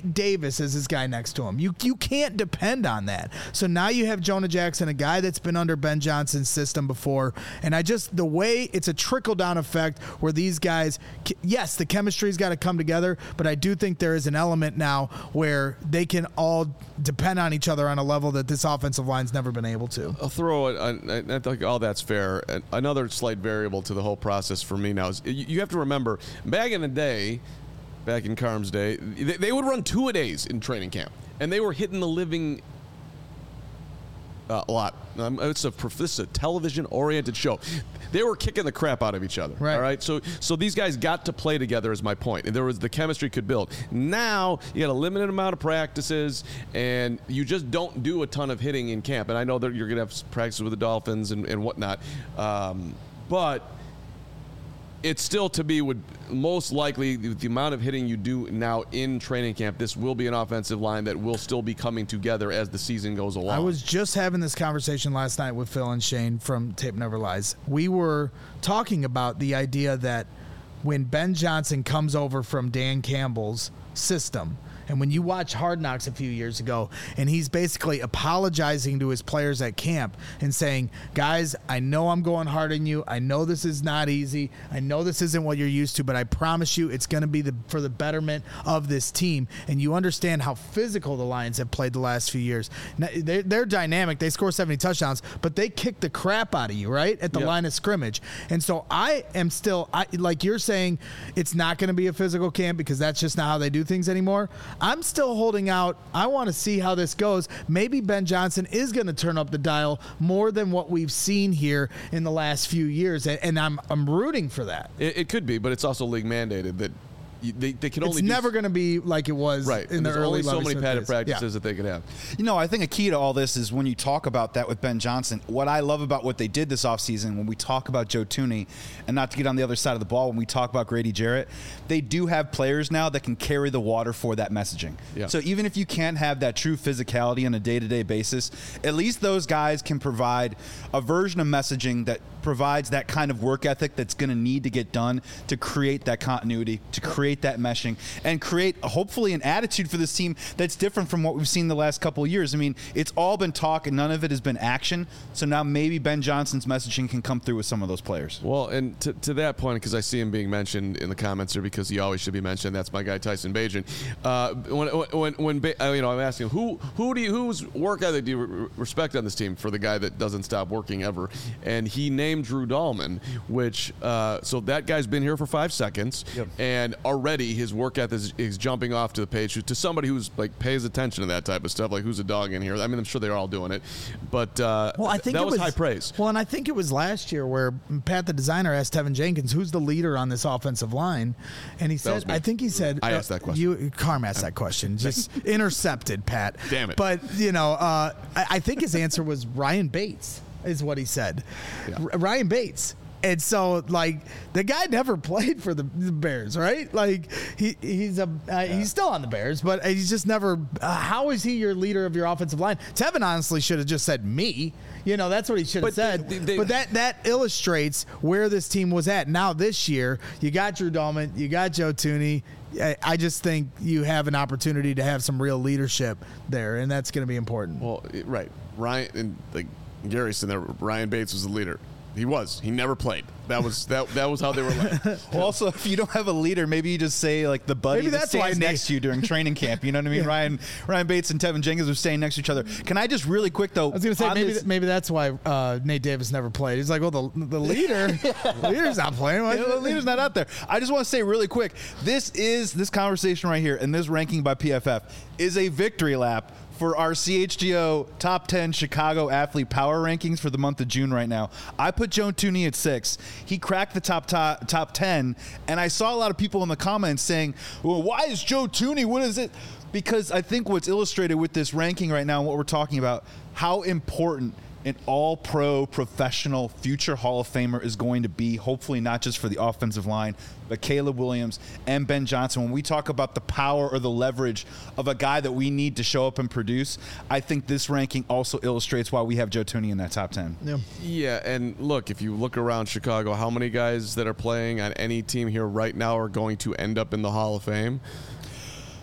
Nate Davis is his guy next to him. You you can't depend on that. So now you have Jonah Jackson, a guy that's been under Ben Johnson's system before, and I just the way it's a trickle down effect where these guys, yes, the chemistry's got to come together, but I do think there is an element now where they can all depend on each other on a level that this offensive line's never been able to.
I'll throw it. I, I think all that's fair. Another slight variable to the whole process for me now is you have to remember back in the day, back in Carm's day, they, they would run two a days in training camp, and they were hitting the living uh, a lot. Um, it's a this is a television-oriented show. They were kicking the crap out of each other.
Right.
All right. So so these guys got to play together. Is my point. And there was the chemistry could build. Now you got a limited amount of practices, and you just don't do a ton of hitting in camp. And I know that you're going to have practices with the Dolphins and, and whatnot, um, but it still, to me, would most likely, the amount of hitting you do now in training camp, this will be an offensive line that will still be coming together as the season goes along.
I was just having this conversation last night with Phil and Shane from Tape Never Lies. We were talking about the idea that when Ben Johnson comes over from Dan Campbell's system, and when you watch Hard Knocks a few years ago, and he's basically apologizing to his players at camp and saying, guys, I know I'm going hard on you. I know this is not easy. I know this isn't what you're used to, but I promise you it's going to be the, for the betterment of this team. And you understand how physical the Lions have played the last few years. Now, they're, they're dynamic. They score seventy touchdowns, but they kick the crap out of you, right, at the
Yep.
line of scrimmage. And so I am still, I, like you're saying, it's not going to be a physical camp because that's just not how they do things anymore. I'm still holding out. I want to see how this goes. Maybe Ben Johnson is going to turn up the dial more than what we've seen here in the last few years, and, and I'm I'm rooting for that.
It, it could be, but it's also league mandated that you, they, they can only
It's
do
never going to be like it was
right.
in
and
the
there's
early
only so
Lovie
many
Smith
padded
days.
practices
Yeah.
that they could have.
You know, I think a key to all this is when you talk about that with Ben Johnson, what I love about what they did this offseason, when we talk about Joe Thuney, and not to get on the other side of the ball, when we talk about Grady Jarrett, they do have players now that can carry the water for that messaging.
Yeah.
So even if you can't have that true physicality on a day-to-day basis, at least those guys can provide a version of messaging that provides that kind of work ethic that's going to need to get done to create that continuity, to create that meshing, and create hopefully an attitude for this team that's different from what we've seen the last couple of years. I mean, it's all been talk and none of it has been action. So now maybe Ben Johnson's messaging can come through with some of those players.
Well, and to, to that point, because I see him being mentioned in the comments here, because he always should be mentioned. That's my guy Tyson Bagent. Uh, when when when ba- you know, I'm asking him, who who do you whose work ethic do you re- respect on this team for the guy that doesn't stop working ever? And he named Drew Dahlman, which uh, so that guy's been here for five seconds,
Yep.
and already his work ethic is, is jumping off to the page to somebody who's like pays attention to that type of stuff, like who's a dog in here. I mean, I'm sure they're all doing it, but uh,
Well, I think
that
it
was,
was
high praise.
Well, and I think it was last year where Pat, the designer, asked Tevin Jenkins, "Who's the leader on this offensive line?" And he said,
was me.
"I think he said
I asked that question.
You, Carm asked that question, just intercepted, Pat.
Damn it.
But you know, uh, I, I think his answer was Ryan Bates, is what he said.
Yeah.
R- Ryan Bates. And so, like, the guy never played for the, the Bears, right? Like, he he's a uh, yeah. he's still on the Bears, but he's just never. Uh, how is he your leader of your offensive line? Tevin honestly should have just said me. You know, that's what he should have
But
said.
they- they-
but that that illustrates where this team was at. Now this year, you got Drew Dahlman, you got Joe Thuney. I, I just think you have an opportunity to have some real leadership there, and that's going to be important.
Well, it- right, Ryan and like Gary said, there, Ryan Bates was the leader. He was. He never played. That was that. That was how they were led.
Well, also, if you don't have a leader, maybe you just say like the buddy
Maybe
that
that's why
stands
Nate-
next to you during training camp. You know what I mean?
Yeah.
Ryan Ryan Bates and Tevin Jenkins are staying next to each other. Can I just really quick though?
I was going to say
on
maybe
this-
th- maybe that's why uh, Nate Davis never played. He's like, well, the the leader, the leader's not playing. Why-
Yeah, the leader's not out there. I just want to say really quick, this is this conversation right here and this ranking by P F F is a victory lap for our C H G O top ten Chicago athlete power rankings for the month of June right now. I put Joe Thuney at six. He cracked the top, top top ten, and I saw a lot of people in the comments saying, well, why is Joe Thuney? What is it? Because I think what's illustrated with this ranking right now and what we're talking about, how important an all-pro, professional, future Hall of Famer is going to be, hopefully not just for the offensive line, but Caleb Williams and Ben Johnson. When we talk about the power or the leverage of a guy that we need to show up and produce, I think this ranking also illustrates why we have Joe Thuney in that top ten.
Yeah.
Yeah, and look, if you look around Chicago, how many guys that are playing on any team here right now are going to end up in the Hall of Fame?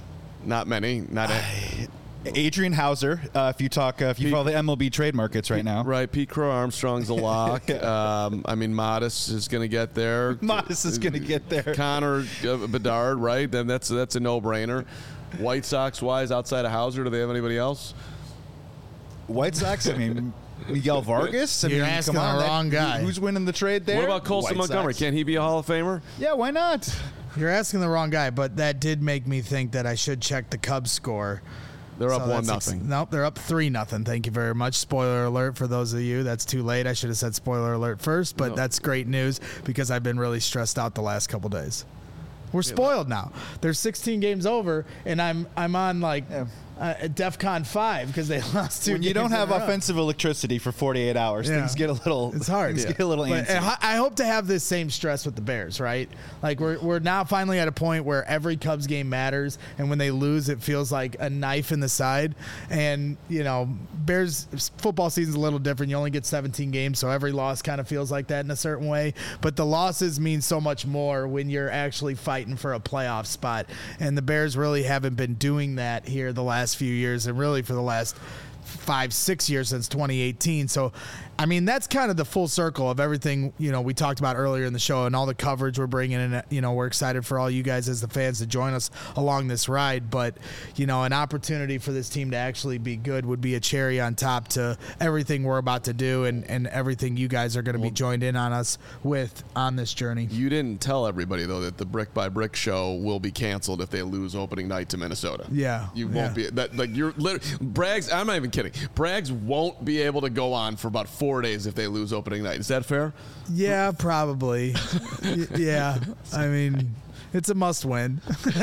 Not many. Not a,
Adrian Hauser, uh, if you talk, uh, if you
Pete,
follow the M L B trade markets right now.
Right, Pete Crow Armstrong's a lock. um, I mean, Modest is going to get there.
Modest is going to get there.
Connor uh, Bedard, right? Then that's that's a no-brainer. White Sox wise, outside of Hauser, do they have anybody else?
White Sox, I mean, Miguel Vargas. I
You're
mean,
asking
come on,
the
that-
wrong guy.
Who's winning the trade there?
What about Colson
White
Montgomery?
Sox.
Can't he be a Hall of Famer?
Yeah, why not?
You're asking the wrong guy, but that did make me think that I should check the Cubs score.
They're
So
up one
that's ex-
nothing.
nope, they're up three nothing. Thank you very much. Spoiler alert for those of you. That's too late. I should have said spoiler alert first, but
No.
that's great news because I've been really stressed out the last couple days. We're spoiled now. There's sixteen games over, and I'm I'm on like
Yeah.
uh, DEFCON five because they lost two.
When you
games
don't have
in a row.
offensive electricity for forty-eight hours,
Yeah.
things get a little.
It's hard.
Things
Yeah.
get a little
But
antsy.
I I hope to have this same stress with the Bears, right? Like we're we're now finally at a point where every Cubs game matters, and when they lose, it feels like a knife in the side. And you know, Bears football season's a little different. You only get seventeen games, so every loss kind of feels like that in a certain way. But the losses mean so much more when you're actually fighting for a playoff spot. And the Bears really haven't been doing that here the last few years, and really for the last five, six years since twenty eighteen. So, I mean, that's kind of the full circle of everything, you know, we talked about earlier in the show and all the coverage we're bringing in. You know, we're excited for all you guys as the fans to join us along this ride. But, you know, an opportunity for this team to actually be good would be a cherry on top to everything we're about to do and, and everything you guys are going to be joined in on us with on this journey.
You didn't tell everybody, though, that the Brick by Brick show will be canceled if they lose opening night to Minnesota.
Yeah.
You
yeah.
won't be. That, like, you're literally. Braggs, I'm not even kidding. Braggs won't be able to go on for about four days if they lose opening night. Is that fair?
Yeah, probably. Y- yeah. I mean, it's a must win.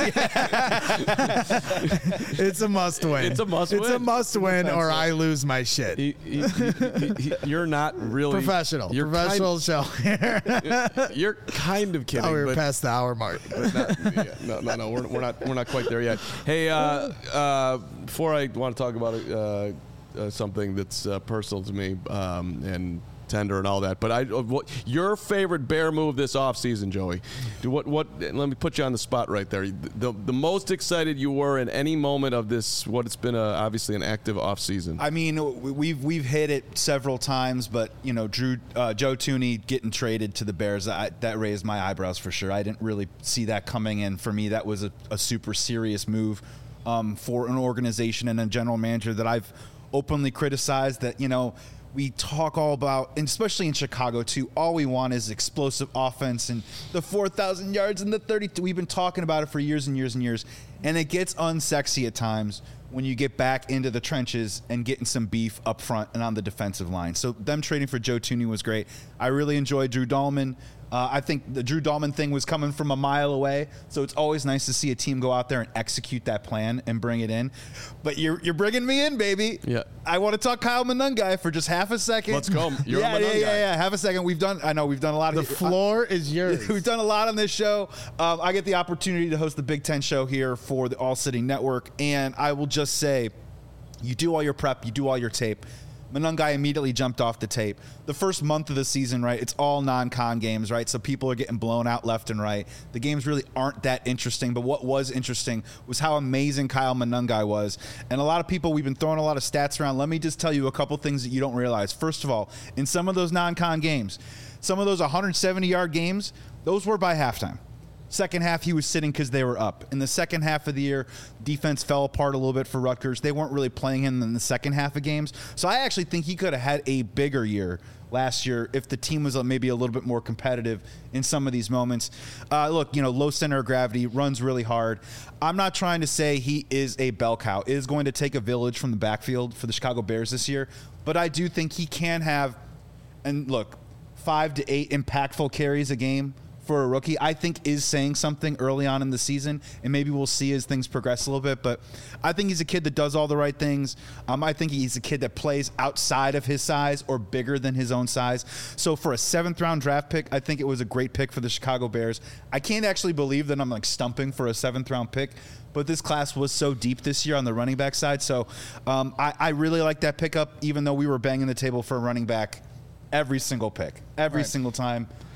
It's a must win.
It's a must
It's a
win.
must win, or I lose my shit.
He, he, he, he, he, you're not really.
Professional.
You're
Professional show here.
Kind, you're kind of kidding.
Oh, we were
but,
past the hour mark.
but not, yeah, no, no, no. We're, we're not. We're not quite there yet. Hey, uh, uh, before I want to talk about uh, uh, something that's uh, personal to me um, and tender and all that, but I, uh, what, your favorite Bear move this offseason, Joey? Do what? What? Let me put you on the spot right there. The, the most excited you were in any moment of this? What it's been a, obviously an active offseason.
I mean, we've we've hit it several times, but you know, Drew uh, Joe Tooney getting traded to the Bears, I, that raised my eyebrows for sure. I didn't really see that coming in. For me, that was a, a super serious move um, for an organization and a general manager that I've openly criticized. That you know. We talk all about, and especially in Chicago too, all we want is explosive offense and the four thousand yards and the thirty-two. We've been talking about it for years and years and years, and it gets unsexy at times when you get back into the trenches and getting some beef up front and on the defensive line. So them trading for Joe Tooney was great. I really enjoyed Drew Dahlman. Uh, I think the Drew Dahlman thing was coming from a mile away, so it's always nice to see a team go out there and execute that plan and bring it in. But you're you're bringing me in, baby.
Yeah.
I want to talk Kyle Monungai for just half a second.
Let's go. You're
yeah,
a
yeah,
Monungai.
yeah, yeah. Half a second. We've done. I know we've done a lot
The
of
floor is yours.
We've done a lot on this show. Um, I get the opportunity to host the Big Ten show here for the All City Network, and I will just say, you do all your prep, you do all your tape. Monungai immediately jumped off the tape. The first month of the season, right, it's all non-con games, right? So people are getting blown out left and right. The games really aren't that interesting, but what was interesting was how amazing Kyle Monungai was. And a lot of people, we've been throwing a lot of stats around. Let me just tell you a couple things that you don't realize. First of all, in some of those non-con games, some of those one hundred seventy-yard games, those were by halftime. Second half, he was sitting because they were up. In the second half of the year, defense fell apart a little bit for Rutgers. They weren't really playing him in the second half of games. So I actually think he could have had a bigger year last year if the team was maybe a little bit more competitive in some of these moments. Uh, look, you know, low center of gravity, runs really hard. I'm not trying to say he is a bell cow. It is going to take a village from the backfield for the Chicago Bears this year. But I do think he can have, and look, five to eight impactful carries a game for a rookie, I think is saying something early on in the season, and maybe we'll see as things progress a little bit. But I think he's a kid that does all the right things. Um, I think he's a kid that plays outside of his size or bigger than his own size. So for a seventh round draft pick, I think it was a great pick for the Chicago Bears. I can't actually believe that I'm like stumping for a seventh round pick, but this class was so deep this year on the running back side. So um, I, I really like that pickup, even though we were banging the table for a running back every single pick, every
Right.
single time.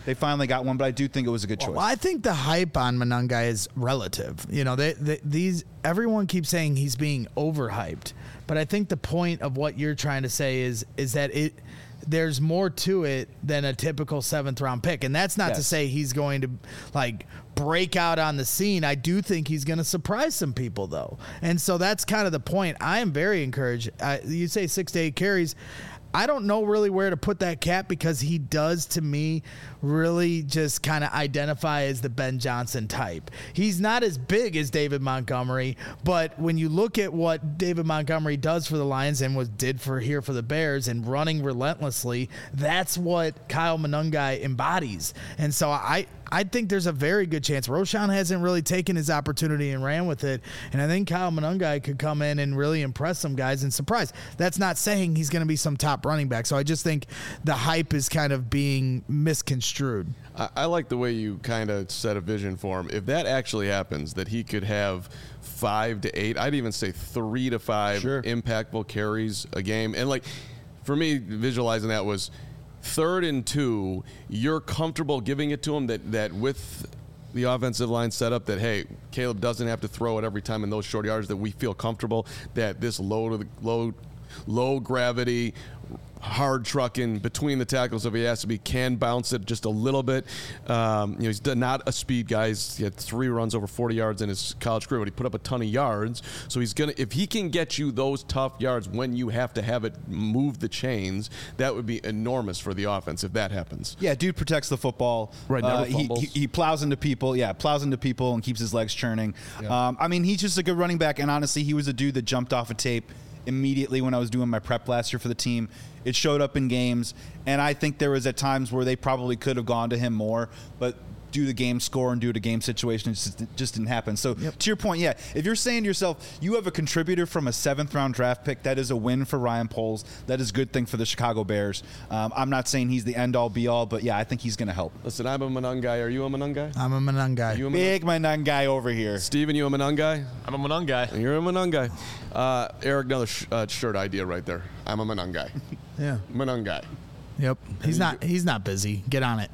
they finally got one, but I do think it was a good choice.
Well, I think the hype on Monangai is relative. You know, they, they, these everyone keeps saying he's being overhyped, but I think the point of what you're trying to say is is that it there's more to it than a typical seventh round pick, and that's not
Yes.
to say he's going to like break out on the scene. I do think he's going to surprise some people, though, and so that's kind of the point. I am very encouraged. Uh, you say six to eight carries. I don't know really where to put that cap because he does, to me, really just kind of identify as the Ben Johnson type. He's not as big as David Montgomery, but when you look at what David Montgomery does for the Lions and was did for here for the Bears and running relentlessly, that's what Kyle Monangai embodies. And so I I think there's a very good chance. Roschon hasn't really taken his opportunity and ran with it, and I think Kyle Monangai could come in and really impress some guys and surprise. That's not saying he's going to be some top running back, so I just think the hype is kind of being misconstrued.
I, I like the way you kind of set a vision for him. If that actually happens, that he could have five to eight, I'd even say three to five
Sure.
impactful carries a game. And like, for me, visualizing that was third and two, you're comfortable giving it to him that, that with the offensive line set up that, hey, Caleb doesn't have to throw it every time in those short yards, that we feel comfortable that this low to the low, low gravity, hard trucking between the tackles if he has to be, can bounce it just a little bit. Um, you know, he's done- not a speed guy. He's, he had three runs over forty yards in his college career, but he put up a ton of yards. So he's gonna, if he can get you those tough yards when you have to have it move the chains, that would be enormous for the offense if that happens.
Yeah, dude protects the football.
Right, never
Uh, he,
fumbles.
he, he plows into people. Yeah, plows into people and keeps his legs churning. Um, I mean, he's just a good running back. And honestly, he was a dude that jumped off a tape immediately when I was doing my prep last year for the team. It showed up in games, and I think there was at times where they probably could have gone to him more, but due to game score and due to game situation, it just, it just didn't happen. So to your point, yeah, if you're saying to yourself, you have a contributor from a seventh round draft pick, that is a win for Ryan Poles. That is a good thing for the Chicago Bears. Um, I'm not saying he's the end all be all, but yeah, I think he's going to help.
Listen, I'm a Monangai. Are you a Monangai?
I'm a Monangai.
You a Monangai?
Big man guy over here.
Steven, you a Monangai?
I'm a Monangai.
You're a Monangai. Uh, Eric, another sh- uh, shirt idea right there. I'm a Monangai.
Yeah.
Monangai.
Yep. He's not. He's not busy. Get on it.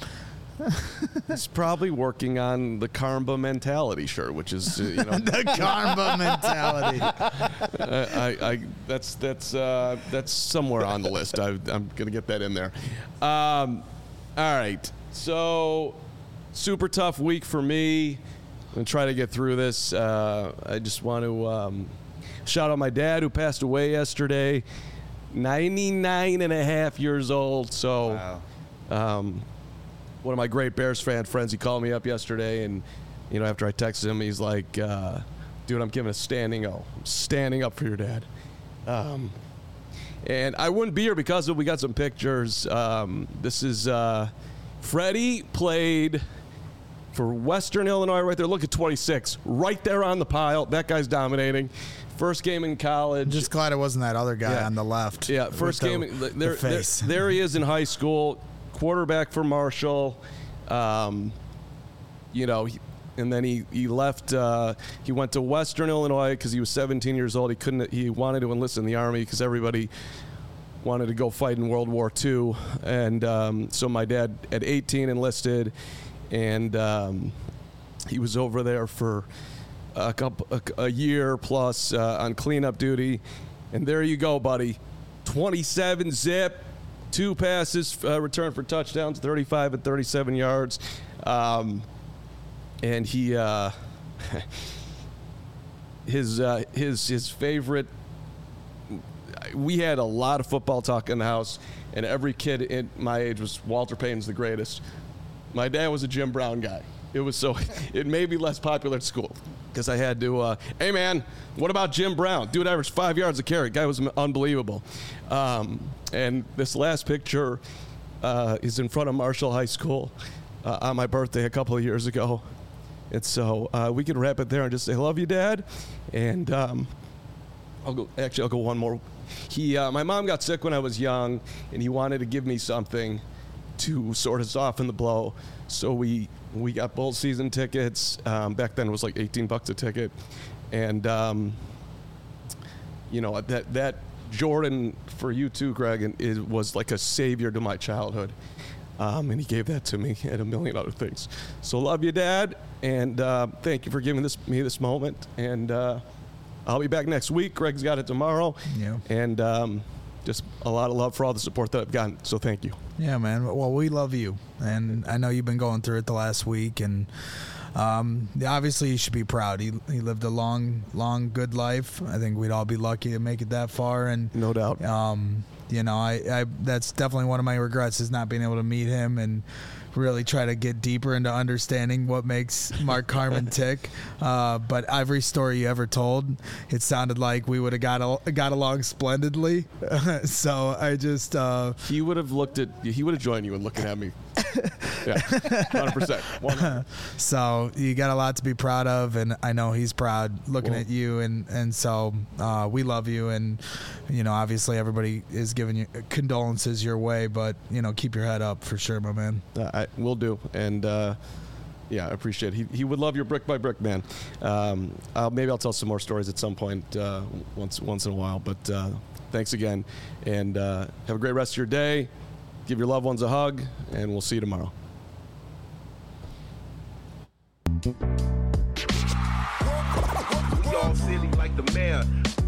He's probably working on the Karmba mentality shirt, which is, uh, you know,
The Karma mentality.
I, I, I, that's that's uh, that's somewhere on the list. I, I'm gonna get that in there. Um, all right, so super tough week for me. I'm gonna try to get through this. Uh, I just want to um, shout out my dad who passed away yesterday, ninety-nine and a half years old. So.
Wow.
Um, one of my great Bears fan friends, he called me up yesterday, and you know, after I texted him, he's like, uh, dude, I'm giving a standing O. I'm standing up for your dad. Um, and I wouldn't be here because of, we got some pictures. Um, this is uh, Freddie played for Western Illinois right there. Look at twenty-six, right there on the pile. That guy's dominating. First game in college.
Just glad it wasn't that other guy
Yeah.
on the left.
Yeah,
with
first
the-
game.
the
there, there,
face.
there he is in high school, quarterback for Marshall. Um, you know, he, and then he he left. Uh, he went to Western Illinois because he was seventeen years old. He couldn't. He wanted to enlist in the Army because everybody wanted to go fight in World War Two. And um, so my dad at eighteen enlisted, and um, he was over there for a couple a, a year plus uh, on cleanup duty. And there you go, buddy. twenty-seven zip, two passes, uh, return for touchdowns, thirty-five and thirty-seven yards. Um, and he, uh, his, uh, his, his favorite, we had a lot of football talk in the house, and every kid in my age was Walter Payton's the greatest. My dad was a Jim Brown guy. It was so, it made me less popular at school because I had to, uh, hey man, what about Jim Brown? Dude averaged five yards a carry. Guy was unbelievable. Um, and this last picture uh, is in front of Marshall High School uh, on my birthday a couple of years ago. And so uh, we can wrap it there and just say, love you, Dad. And um, I'll go, actually, I'll go one more. He, uh, my mom got sick when I was young, and he wanted to give me something to sort of soften the blow. So we we got bowl season tickets. Um, back then it was like eighteen bucks a ticket, and um, you know that that Jordan for you too, Greg, and it was like a savior to my childhood. Um, and he gave that to me and a million other things. So love you, Dad, and uh, thank you for giving this me this moment. And uh, I'll be back next week. Greg's got it tomorrow.
Yeah.
And um, just a lot of love for all the support that I've gotten. So thank you.
Yeah, man. Well, we love you, and I know you've been going through it the last week, and um, obviously you should be proud. He he lived a long, long, good life. I think we'd all be lucky to make it that far, and
No doubt.
Um, you know, I, I that's definitely one of my regrets is not being able to meet him and really try to get deeper into understanding what makes Mark Carman tick. Uh, but every story you ever told, it sounded like we would have got al- got along splendidly. So I just uh,
He would have looked at, he would have joined you and looking at me. Yeah, one hundred percent. one hundred.
so you got a lot to be proud of, and I know he's proud looking
Well-
at you, and and so uh, we love you, and you know obviously everybody is giving you condolences your way, but you know keep your head up for sure, my man.
Uh, I will do, and uh, yeah, I appreciate it. He he would love your brick by brick, man. Um, I'll, maybe I'll tell some more stories at some point, uh, once once in a while. But uh, thanks again, and uh, have a great rest of your day. Give your loved ones a hug, and we'll see you tomorrow.
We all silly like the mayor.